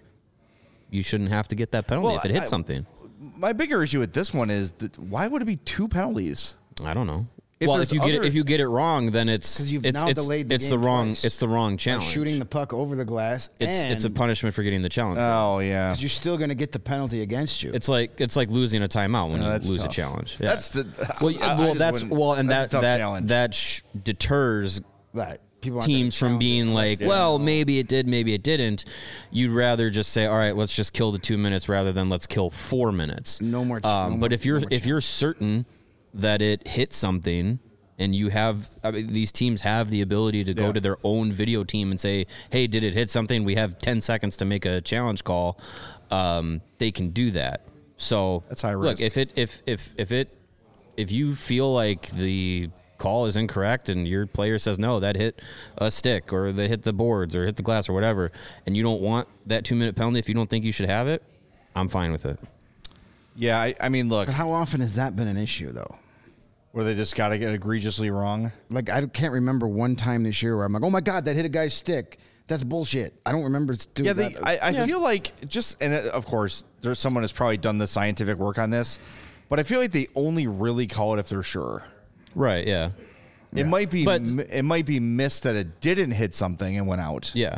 You shouldn't have to get that penalty Well, if it hits I- something. My bigger issue with this one is that why would it be two penalties? I don't know. If well, there's if you get other- it, if you get it wrong, then it's 'Cause you've it's now it's, delayed the it's game the wrong twice. it's the wrong By challenge. shooting the puck over the glass. it's and it's a punishment for getting the challenge. Oh, yeah. 'cause you're still going to get the penalty against you. It's like it's like losing a timeout when No, you that's lose tough. a challenge. Yeah. That's the well, I- I well just that's wouldn't- well, and that's that a tough that challenge. that sh- deters that people aren't gonna teams from challenge being it. like, Yeah. well, maybe it did, maybe it didn't. You'd rather just say, all right, let's just kill the two minutes rather than let's kill four minutes. No more ch- Um, no but more- if you're no more if you're certain that it hit something, and you have I mean, these teams have the ability to go Yeah. to their own video team and say, hey, did it hit something? We have ten seconds to make a challenge call. Um, they can do that. So That's high look, risk. if it if if if it if you feel like the call is incorrect and your player says no, that hit a stick or they hit the boards or hit the glass or whatever, and you don't want that two minute penalty, if you don't think you should have it, I'm fine with it. Yeah, I, I mean, look, But how often has that been an issue, though? where they just got to get egregiously wrong. Like, I can't remember one time this year where I'm like, oh my God, that hit a guy's stick. That's bullshit. I don't remember doing Yeah, that. they, I, I feel like just, and it, of course, there's someone who's probably done the scientific work on this, but I feel like they only really call it if they're sure. Right, yeah. It might be, But- m- it might be missed that it didn't hit something and went out. Yeah.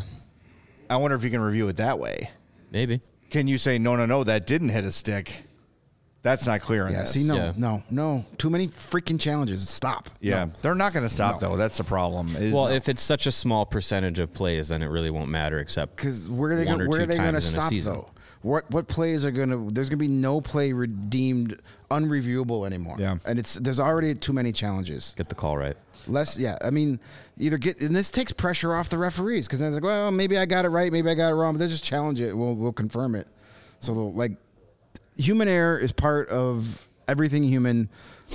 I wonder if you can review it that way. Maybe. Can you say no, no, no, that didn't hit a stick? That's not clear in yeah, this. see, no, Yeah. no, no. Too many freaking challenges. Stop. Yeah, No. they're not going to stop No. though. That's the problem. Is- Well, if it's such a small percentage of plays, then it really won't matter except Because where are they one going? or Where two are they going to times in a stop season. though? What what plays are going to? There's going to be no play redeemed unreviewable anymore. Yeah. and it's there's already too many challenges. Get the call right. Less, yeah. I mean, either get and this takes pressure off the referees because they're like, well, maybe I got it right, maybe I got it wrong, but they just challenge it. We'll we'll confirm it. So they'll, like, human error is part of everything human.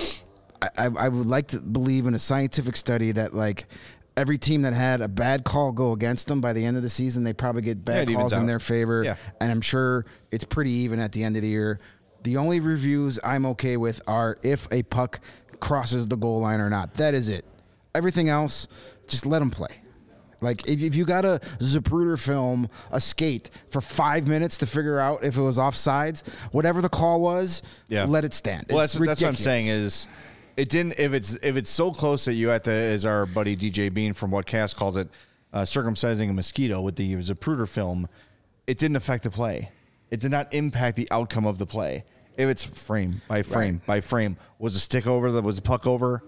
I, I I would like to believe in a scientific study that like every team that had a bad call go against them by the end of the season, they probably get Yeah, bad it evens calls in out. their favor. Yeah. And I'm sure it's pretty even at the end of the year. The only reviews I'm okay with are if a puck crosses the goal line or not. That is it. Everything else, just let them play. Like, if, if you got a Zapruder film, a skate for five minutes to figure out if it was offsides, whatever the call was, Yeah. let it stand. Well, It's that's, that's what I'm ridiculous. saying is it didn't if it's if it's so close that you have to, as our buddy D J Bean from What Cast calls it, uh, circumcising a mosquito with the Zapruder film, it didn't affect the play. It did not impact the outcome of the play. If it's frame by frame Right. by frame, was a stick over, that was a puck over,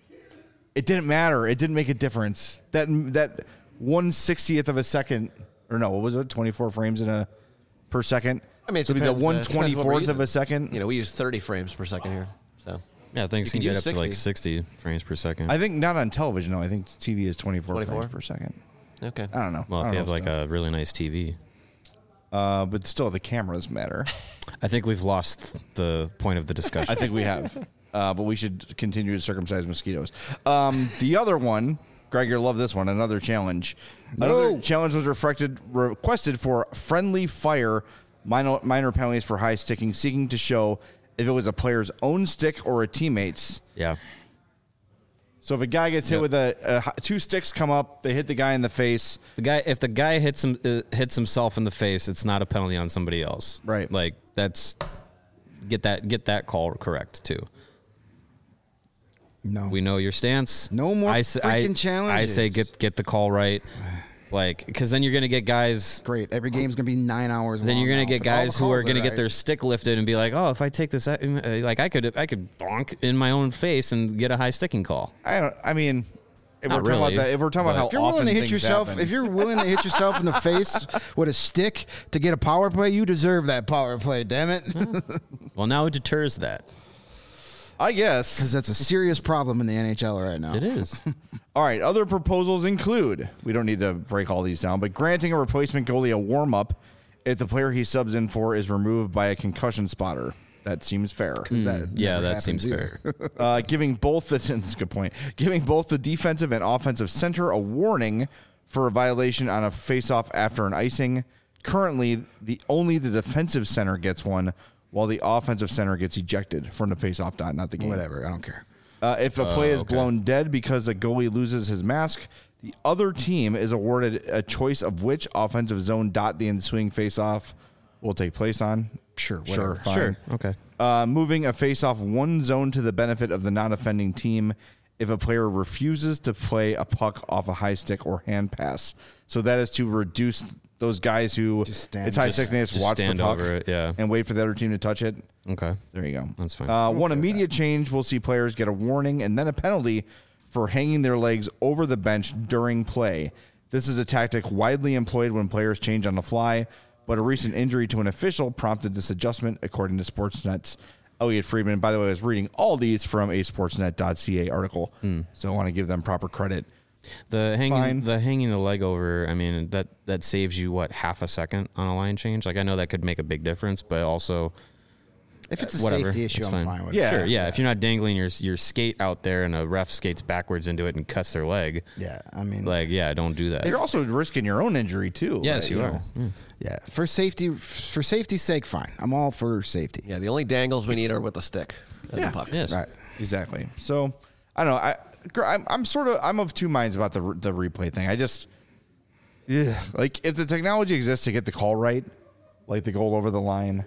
it didn't matter. It didn't make a difference. That that one sixtieth of a second, or no, what was it? twenty-four frames in a per second. I mean, it so it'd be the depends, uh, one it depends what we're twenty-fourth of using. a second. You know, we use thirty frames per second here. So Yeah, things You can can get use up to like sixty. sixty frames per second. I think not on television. No, I think T V is twenty-four, twenty-four? frames per second. okay. I don't know. well, I if don't you have know like stuff. a really nice T V. uh, but still, the cameras matter. I think we've lost the point of the discussion. I think we have, uh, but we should continue to circumcise mosquitoes. Um, the other one, Greg, you'll love this one. Another challenge. Another challenge was reflected, requested for friendly fire minor, minor penalties for high sticking, seeking to show if it was a player's own stick or a teammate's. yeah. So if a guy gets hit Yep. with a, a two sticks come up, they hit the guy in the face. The guy, if the guy hits him, uh, hits himself in the face, it's not a penalty on somebody else. Right. Like that's get that get that call correct too. No. We know your stance. No more I, s- I- freaking challenges. I say get get the call right, like because then you're gonna get guys. Great. Every game's going to be nine hours Then long you're gonna now, get but all the guys who are calls gonna get right. their stick lifted and be like, oh, if I take this, uh, like I could I could donk in my own face and get a high sticking call. I don't. I mean, if Not we're talking really, about that, if we're talking but- about how If you're often willing to hit things yourself, happen, if you're willing to hit yourself in the face with a stick to get a power play, you deserve that power play. Damn it, because Well, now it deters that. I guess. that's a serious problem in the N H L right now. It is. All right, other proposals include, we don't need to break all these down, but granting a replacement goalie a warm-up if the player he subs in for is removed by a concussion spotter. That seems fair. That yeah, never that seems happens either. uh, giving both the that's a good point. Giving both the defensive and offensive center a warning for a violation on a faceoff after an icing. Currently, the only the defensive center gets one, while the offensive center gets ejected from the faceoff dot, not the game. Whatever, I don't care. Uh, if a play Oh, is okay. blown dead because a goalie loses his mask, the other team is awarded a choice of which offensive zone dot the ensuing faceoff will take place on. Sure, Sure, whatever. fine. Sure. Okay. Uh, moving a faceoff one zone to the benefit of the non-offending team if a player refuses to play a puck off a high stick or hand pass. So that is to reduce those guys who Just stand- it's high just- stick and they just just watch the stand puck over it, yeah. and wait for the other team to touch it. Okay. There you go. That's fine. Uh, one immediate change, we'll see players get a warning and then a penalty for hanging their legs over the bench during play. This is a tactic widely employed when players change on the fly, but a recent injury to an official prompted this adjustment, according to Sportsnet's Elliot Friedman. By the way, I was reading all these from a sportsnet dot c a article, so I want to give them proper credit. The hanging Fine. the hanging the leg over, I mean, that that saves you what, half a second on a line change? Like I know that could make a big difference, but also If it's a whatever, safety issue, it's I'm fine. fine with Yeah. it. sure, yeah, if you're not dangling your your skate out there and a ref skates backwards into it and cuts their leg, Yeah, I mean, like yeah, don't do that. You're also risking your own injury too. yes, like, you know. are. Mm. yeah, for safety, for safety's sake, fine. I'm all for safety. Yeah, the only dangles we need are with the stick and Yeah. the puck. Yes. Right. Exactly. So I don't know. I I'm, I'm sort of I'm of two minds about the the replay thing. I just yeah, like if the technology exists to get the call right, like the goal over the line,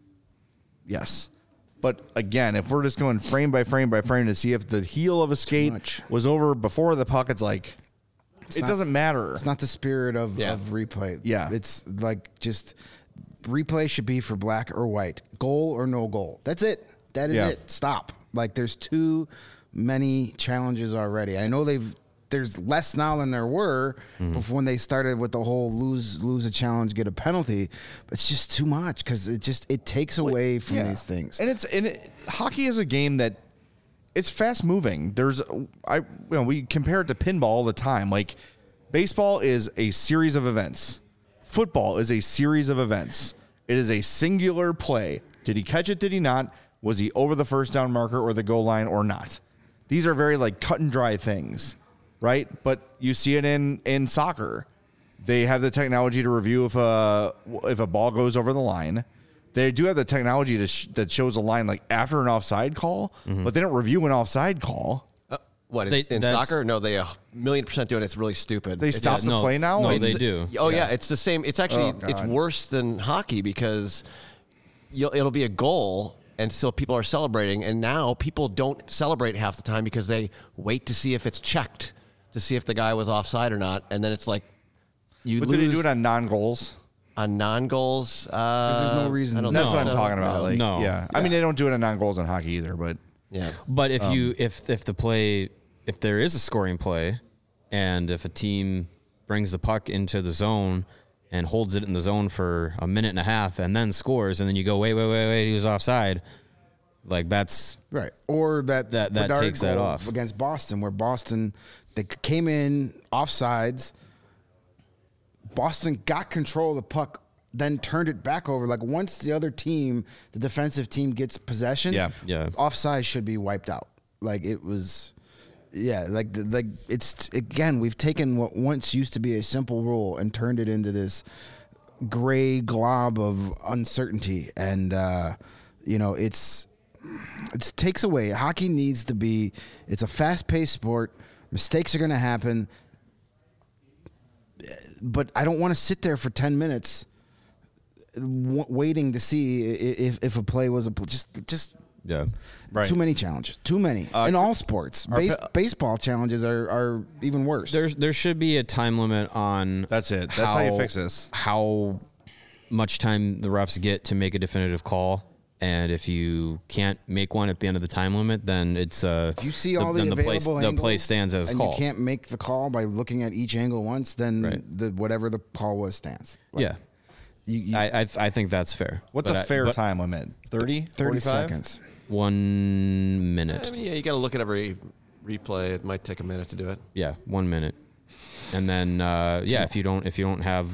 yes. But again, if we're just going frame by frame by frame to see if the heel of a skate much. was over before the puck, it's like it not- doesn't matter. It's not the spirit of, Yeah. of replay. Yeah. It's like just replay should be for black or white, goal or no goal. That's it. That is Yeah. it. Stop. Like there's too many challenges already. I know they've there's less now than there were before when they started with the whole lose lose a challenge, get a penalty. But it's just too much because it just it takes away from Yeah. these things. And it's and it, hockey is a game that it's fast moving. There's I you know we compare it to pinball all the time. Like baseball is a series of events. Football is a series of events. It is a singular play. Did he catch it? Did he not? Was he over the first down marker or the goal line or not? These are very like cut and dry things, right? But you see it in in soccer. They have the technology to review if a if a ball goes over the line. They do have the technology to sh- that shows a line like after an offside call, but they don't review an offside call. Uh, what in, They- in that's- soccer? No, they a million percent do it. It's really stupid. They It's stop just- the no, play now. no, Like, they the- do. Oh yeah. Yeah. it's the same. It's actually Oh, it's God. worse than hockey because you'll, it'll be a goal and still people are celebrating, and now people don't celebrate half the time because they wait to see if it's checked to see if the guy was offside or not, and then it's like you But lose do they do it on non-goals? on non-goals. Uh, there's no reason- I don't That's think what I'm so. talking about. No. Like, No. yeah. I mean, they don't do it on non-goals in hockey either, but Yeah. But if Um, you if if the play if there is a scoring play, and if a team brings the puck into the zone and holds it in the zone for a minute and a half and then scores, and then you go wait wait wait wait he was offside, like that's Right. Or that That- that Bedard takes that goal off. against Boston, where Boston they came in offsides. Boston got control of the puck, then turned it back over. Like once the other team, the defensive team, gets possession, Yeah. Yeah. offside should be wiped out. Like it was, yeah. Like the, like it's again, we've taken what once used to be a simple rule and turned it into this gray glob of uncertainty, and uh, you know it's it takes away. Hockey needs to be. It's a fast-paced sport. Mistakes are going to happen, but I don't want to sit there for ten minutes w- waiting to see i- if if a play was a pl- just just yeah. Right. too many challenges. Too many in all sports. Base, pa- baseball challenges are, are even worse. There's there should be a time limit on That's it. That's how you fix this. How much time the refs get to make a definitive call. And if you can't make one at the end of the time limit, then it's uh. if you see all the, then available play, angles the play stands as and called. you can't make the call by looking at each angle once, then Right. the whatever the call was stands. Like, yeah, you, you, I, I I think that's fair. What's But a I- fair but time limit? thirty? thirty forty-five? seconds. One minute. I mean, yeah, you got to look at every replay. It might take a minute to do it. Yeah, one minute, and then uh, yeah, if you don't if you don't have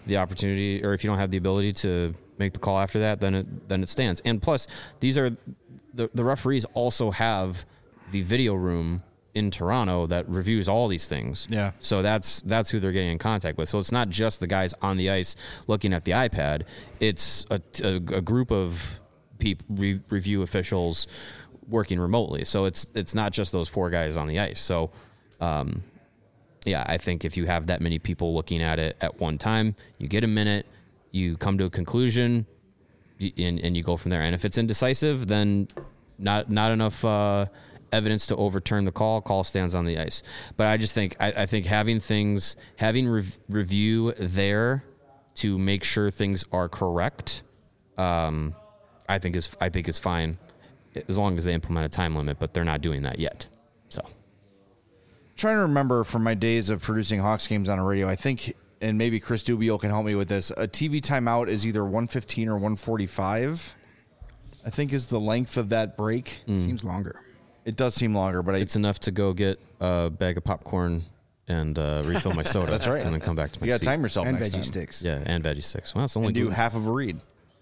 the opportunity, or if you don't have the ability to make the call after that, then it then it stands. And plus, these are the the referees also have the video room in Toronto that reviews all these things. Yeah. So that's that's who they're getting in contact with. So it's not just the guys on the ice looking at the iPad. It's a, a, a group of people, re, review officials working remotely. So it's it's not just those four guys on the ice. So, um, yeah, I think if you have that many people looking at it at one time, you get a minute, you come to a conclusion, and, and you go from there. And if it's indecisive, then not not enough uh, evidence to overturn the call. Call stands on the ice. But I just think I, I think having things having rev- review there to make sure things are correct, um, I think is I think is fine as long as they implement a time limit. But they're not doing that yet. So Trying to remember from my days of producing Hawks games on a radio, I think, and maybe Chris Dubio can help me with this, a T V timeout is either one fifteen or one forty-five. I think is the length of that break. Seems longer. It does seem longer, but I, it's enough to go get a bag of popcorn and uh, refill my soda. That's right. And then come back to my you got to seat. time yourself And next veggie time. sticks. Yeah, and veggie sticks. Well, it's only And do gluten- half of a read.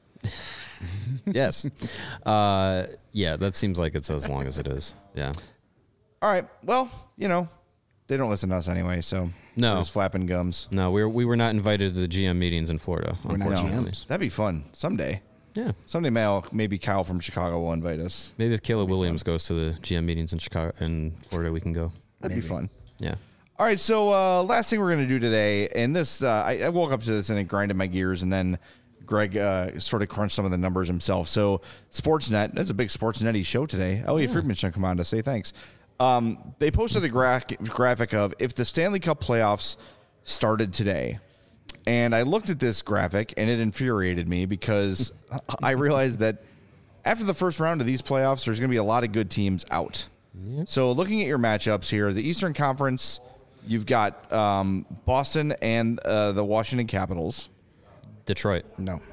Yes. Uh, yeah, that seems like it's as long as it is. Yeah. All right. Well, you know, they don't listen to us anyway, so No. we're just flapping gums. No, we were, we were not invited to the G M meetings in Florida. We're not unfortunately. G Ms. That'd be fun someday. Yeah. Someday, Mal, maybe Kyle from Chicago will invite us. Maybe if Caleb Williams goes to the G M meetings in Chicago in Florida, we can go. That'd be fun. Yeah. All right, so uh, last thing we're going to do today, and this, uh, I, I woke up to this and it grinded my gears, and then Greg uh, sort of crunched some of the numbers himself. So Sportsnet, that's a big Sportsnet-y show today. Elliot yeah. Friedman should come on to say thanks. Um, they posted a gra- graphic of if the Stanley Cup playoffs started today. And I looked at this graphic, and it infuriated me because I realized that after the first round of these playoffs, there's going to be a lot of good teams out. Yep. So looking at your matchups here, the Eastern Conference, you've got um, Boston and uh, the Washington Capitals. Detroit. No.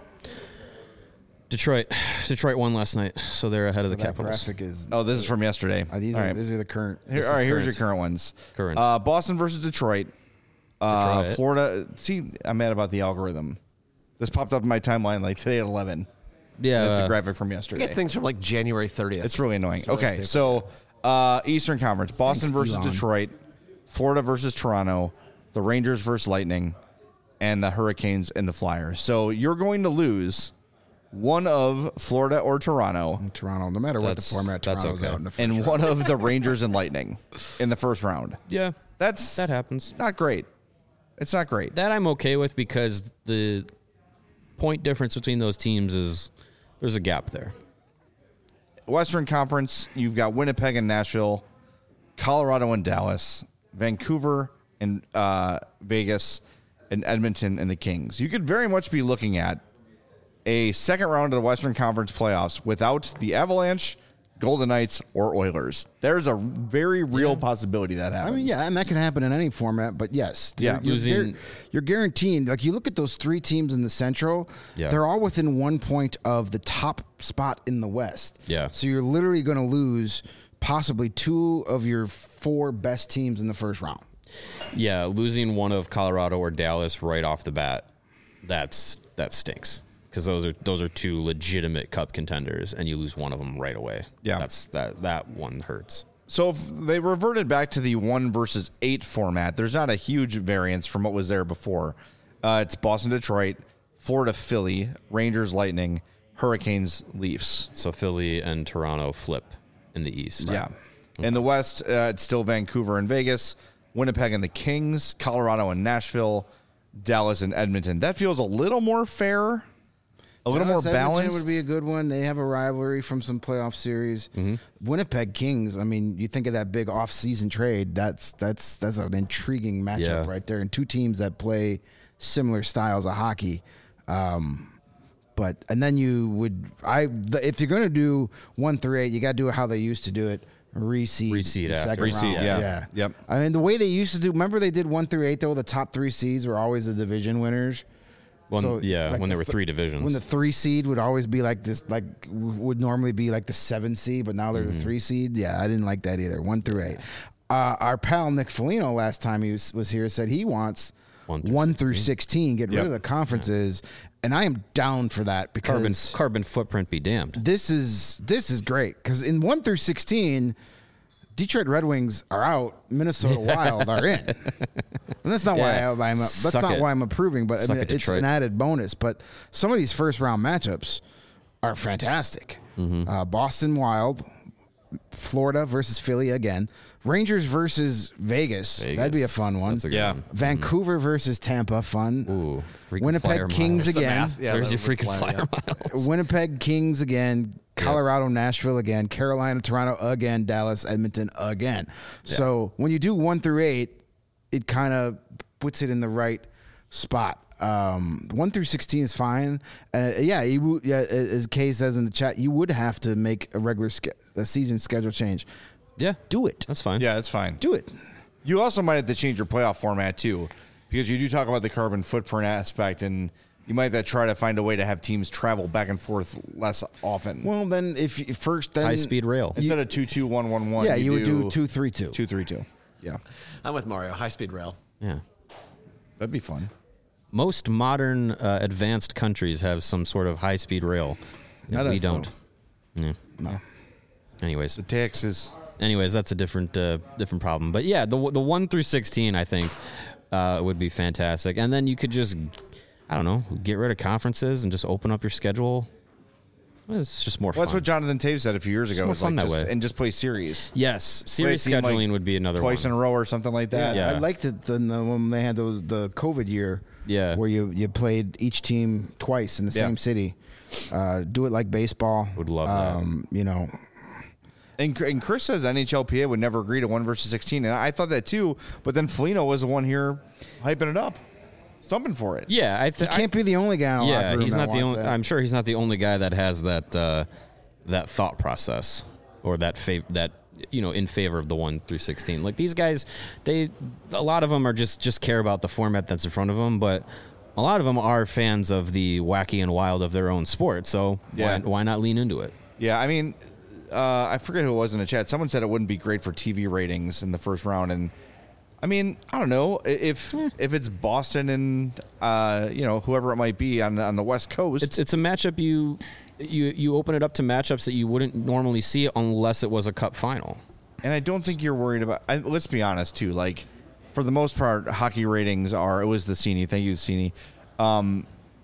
Detroit. Detroit won last night, so they're ahead So of the that Capitals. graphic is. Oh, this is from yesterday. Uh, these all are right. these are the current. Here, all right, here's your current ones. Current. Uh, Boston versus Detroit. Uh, Detroit. Florida. See, I'm mad about the algorithm. This popped up in my timeline like today at eleven. Yeah. That's uh, a graphic from I yesterday. get things from like January thirtieth. It's really annoying. It's really Okay, stupid. so uh, Eastern Conference: Boston Thanks, versus Elon. Detroit, Florida versus Toronto, the Rangers versus Lightning, and the Hurricanes and the Flyers. So you're going to lose one of Florida or Toronto, in Toronto, no matter what the That's- format, that's Toronto's okay. out in the first and round. one of the Rangers and Lightning in the first round. yeah. That's That happens. not great. It's not great. That I'm okay with because the point difference between those teams is there's a gap there. Western Conference, you've got Winnipeg and Nashville, Colorado and Dallas, Vancouver and uh, Vegas, and Edmonton and the Kings. You could very much be looking at a second round of the Western Conference playoffs without the Avalanche, Golden Knights, or Oilers. There's a very real possibility that happens. I mean, yeah, and that can happen in any format, but yes. Yeah. You're, you're, Losing- gar- you're guaranteeing, like you look at those three teams in the Central, Yeah. they're all within one point of the top spot in the West. Yeah. So you're literally going to lose possibly two of your four best teams in the first round. Yeah, losing one of Colorado or Dallas right off the bat, that's that stinks. Because those are those are two legitimate cup contenders, and you lose one of them right away. Yeah. that's that that one hurts. So if they reverted back to the one versus eight format, there's not a huge variance from what was there before. Uh, it's Boston, Detroit, Florida, Philly, Rangers, Lightning, Hurricanes, Leafs. So Philly and Toronto flip in the East. Yeah. In the West, uh, it's still Vancouver and Vegas, Winnipeg and the Kings, Colorado and Nashville, Dallas and Edmonton. That feels a little more fair, a little Dallas, more Edmonton balanced. would be a good one. They have a rivalry from some playoff series. Winnipeg Kings. I mean, you think of that big off-season trade. That's that's that's an intriguing matchup Yeah. right there, and two teams that play similar styles of hockey. Um, but and then you would I the, if you're going to do one through eight, you got to do it how they used to do it. Reseed, Reseed the after. second Reseed, round. yeah. yeah, Yep. I mean, the way they used to do. Remember, they did one through eight though. The top three seeds were always the division winners. When, So, yeah, like when the there were th- three divisions. When the three seed would always be like this, like w- would normally be like the seven seed, but now they're Mm-hmm. the three seed. Yeah, I didn't like that either. One through eight. Uh, our pal Nick Foligno last time he was, was here said he wants One through one through sixteen. sixteen, get Yep. rid of the conferences, and I am down for that Carbon because carbon footprint be damned. this is this is great because in one through sixteen, Detroit Red Wings are out, Minnesota Wild are in, and that's not Yeah. why I, I'm that's Suck not it. why I'm approving, but Suck I mean, it, it's Detroit. an added bonus. But some of these first round matchups are fantastic. Mm-hmm. Uh, Boston Wild, Florida versus Philly again, Rangers versus Vegas. Vegas. That'd be a fun one. That's a good Yeah. one. Vancouver versus Tampa, fun. Ooh, freaking Winnipeg flyer Kings miles. again. Math, yeah, There's the- your freaking flyer, flyer yeah. miles. Winnipeg Kings again, Colorado, Nashville again, Carolina, Toronto again, Dallas, Edmonton again. So when you do one through eight, it kind of puts it in the right spot. Um, one through sixteen is fine, and uh, yeah, you, would- yeah, as Kay says in the chat, you would have to make a regular ske- a season schedule change. Yeah, Do it. that's fine. Yeah, that's fine. Do it. You also might have to change your playoff format too, because you do talk about the carbon footprint aspect, and you might have to try to find a way to have teams travel back and forth less often. Well, then if you, first then High speed rail. Instead of two two one one one, yeah, you, would do two three two. two three two. Yeah, I'm with Mario. High speed rail. Yeah. that'd be fun. Most modern uh, advanced countries have some sort of high speed rail. Not we us, don't. Yeah. No. Anyways, The taxes. anyways, that's a different uh, different problem. But yeah, the the one through sixteen, I think, uh, would be fantastic. And then you could just, I don't know, get rid of conferences and just open up your schedule. It's just more Well, fun. that's what Jonathan Taves said a few years ago. more It's like fun that just- way. and just play series. Yes, Play a series team, like, scheduling would be another twice one. in a row or something like that. Yeah. I liked it the, the, when they had those the COVID year. Yeah. Where you, you played each team twice in the Yeah. same city. Uh, do it like baseball. Would love that. um, You know, And, and Chris says N H L P A would never agree to one versus sixteen, and I thought that too. But then Foligno was the one here hyping it up, stumping for it. Yeah, I you think can't be the only guy in a locker Yeah, room he's that not the wants only. that. I'm sure he's not the only guy that has that uh, that thought process or that fav- that you know in favor of the one through sixteen. Like these guys, they a lot of them are just just care about the format that's in front of them, but a lot of them are fans of the wacky and wild of their own sport. So Yeah. why, why not lean into it? Yeah, I mean, uh, I forget who it was in the chat. Someone said it wouldn't be great for T V ratings in the first round, and I mean, I don't know if if it's Boston and uh, you know whoever it might be on on the West Coast. It's it's a matchup you you you open it up to matchups that you wouldn't normally see unless it was a cup final. And I don't think you're worried about. I, let's be honest, too. Like, for the most part, hockey ratings are. It was the Cini. Thank you, Cini. Um,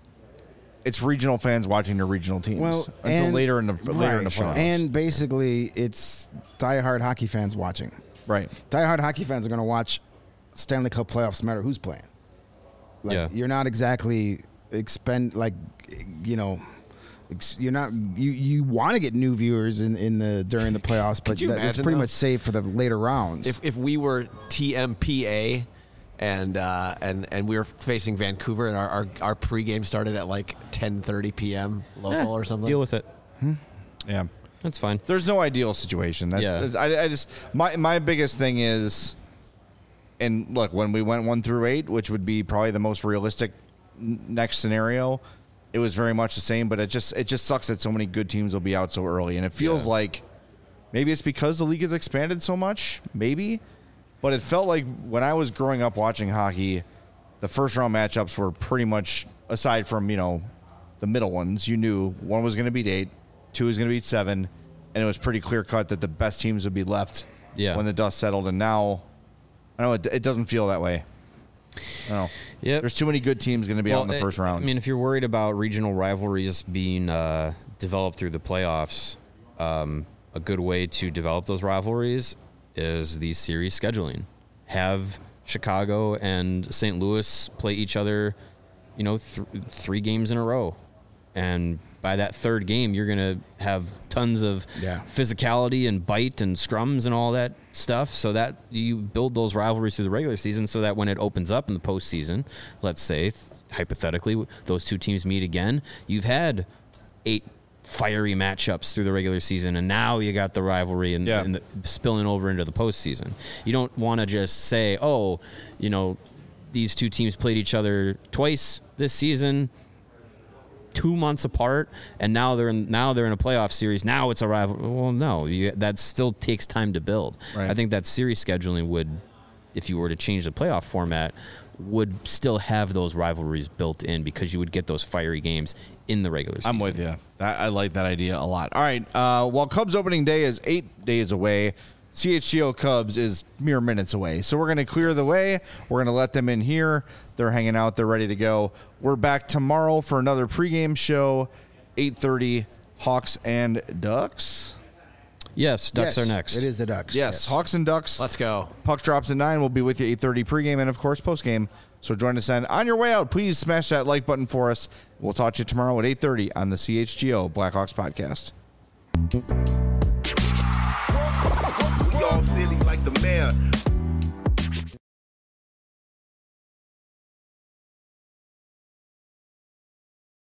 it's regional fans watching their regional teams well, until and- later in the later in the right, playoffs. and basically, it's diehard hockey fans watching. right. Diehard hockey fans are going to watch Stanley Cup playoffs no matter who's playing. Like, Yeah. you're not exactly expend like you know. ex- You're not you. You want to get new viewers in, in the during the playoffs, but you that, it's imagine, pretty though? much safe for the later rounds. If if we were T M P A and uh, and and we were facing Vancouver and our, our, our pregame started at like ten thirty p.m. local Eh, or something. Deal with it. Yeah. That's fine. There's no ideal situation. That's, Yeah. that's- I, I just my my biggest thing is, and look, when we went one through eight, which would be probably the most realistic n- next scenario, it was very much the same. But it just it just sucks that so many good teams will be out so early, and it feels Yeah. like maybe it's because the league has expanded so much, maybe. But it felt like when I was growing up watching hockey, the first round matchups were pretty much, aside from you know the middle ones, you knew one was going to beat eight, two was going to beat seven, and it was pretty clear cut that the best teams would be left Yeah. when the dust settled. And now, I know it, it doesn't feel that way. I don't know. Yep. There's too many good teams going to be out in the it- first round. I mean, if you're worried about regional rivalries being uh, developed through the playoffs, um, a good way to develop those rivalries is the series scheduling. Have Chicago and Saint Louis play each other, you know, th- three games in a row. And by that third game, you're going to have tons of Yeah. physicality and bite and scrums and all that stuff, so that you build those rivalries through the regular season so that when it opens up in the postseason, let's say, th- hypothetically, those two teams meet again, you've had eight fiery matchups through the regular season, and now you got the rivalry and, Yeah. and the, spilling over into the postseason. You don't want to just say, oh, you know, these two teams played each other twice this season, two months apart, and now they're in, now they're in a playoff series. Now it's a rival. Well, no, you, that still takes time to build. Right. I think that series scheduling would, if you were to change the playoff format, would still have those rivalries built in because you would get those fiery games in the regular season. I'm with you. I, I like that idea a lot. All right. Uh, while Cubs opening day is eight days away, C H G O Cubs is mere minutes away. So we're going to clear the way. We're going to let them in here. They're hanging out. They're ready to go. We're back tomorrow for another pregame show, eight thirty, Hawks and Ducks. Yes, Ducks Yes, are next. It is the Ducks. Yes, Hawks and Ducks. Let's go. Puck drops at nine. We'll be with you eight thirty pregame and, of course, postgame. So join us then. On your way out, please smash that like button for us. We'll talk to you tomorrow at eight thirty on the C H G O Blackhawks podcast. We all silly like the mayor.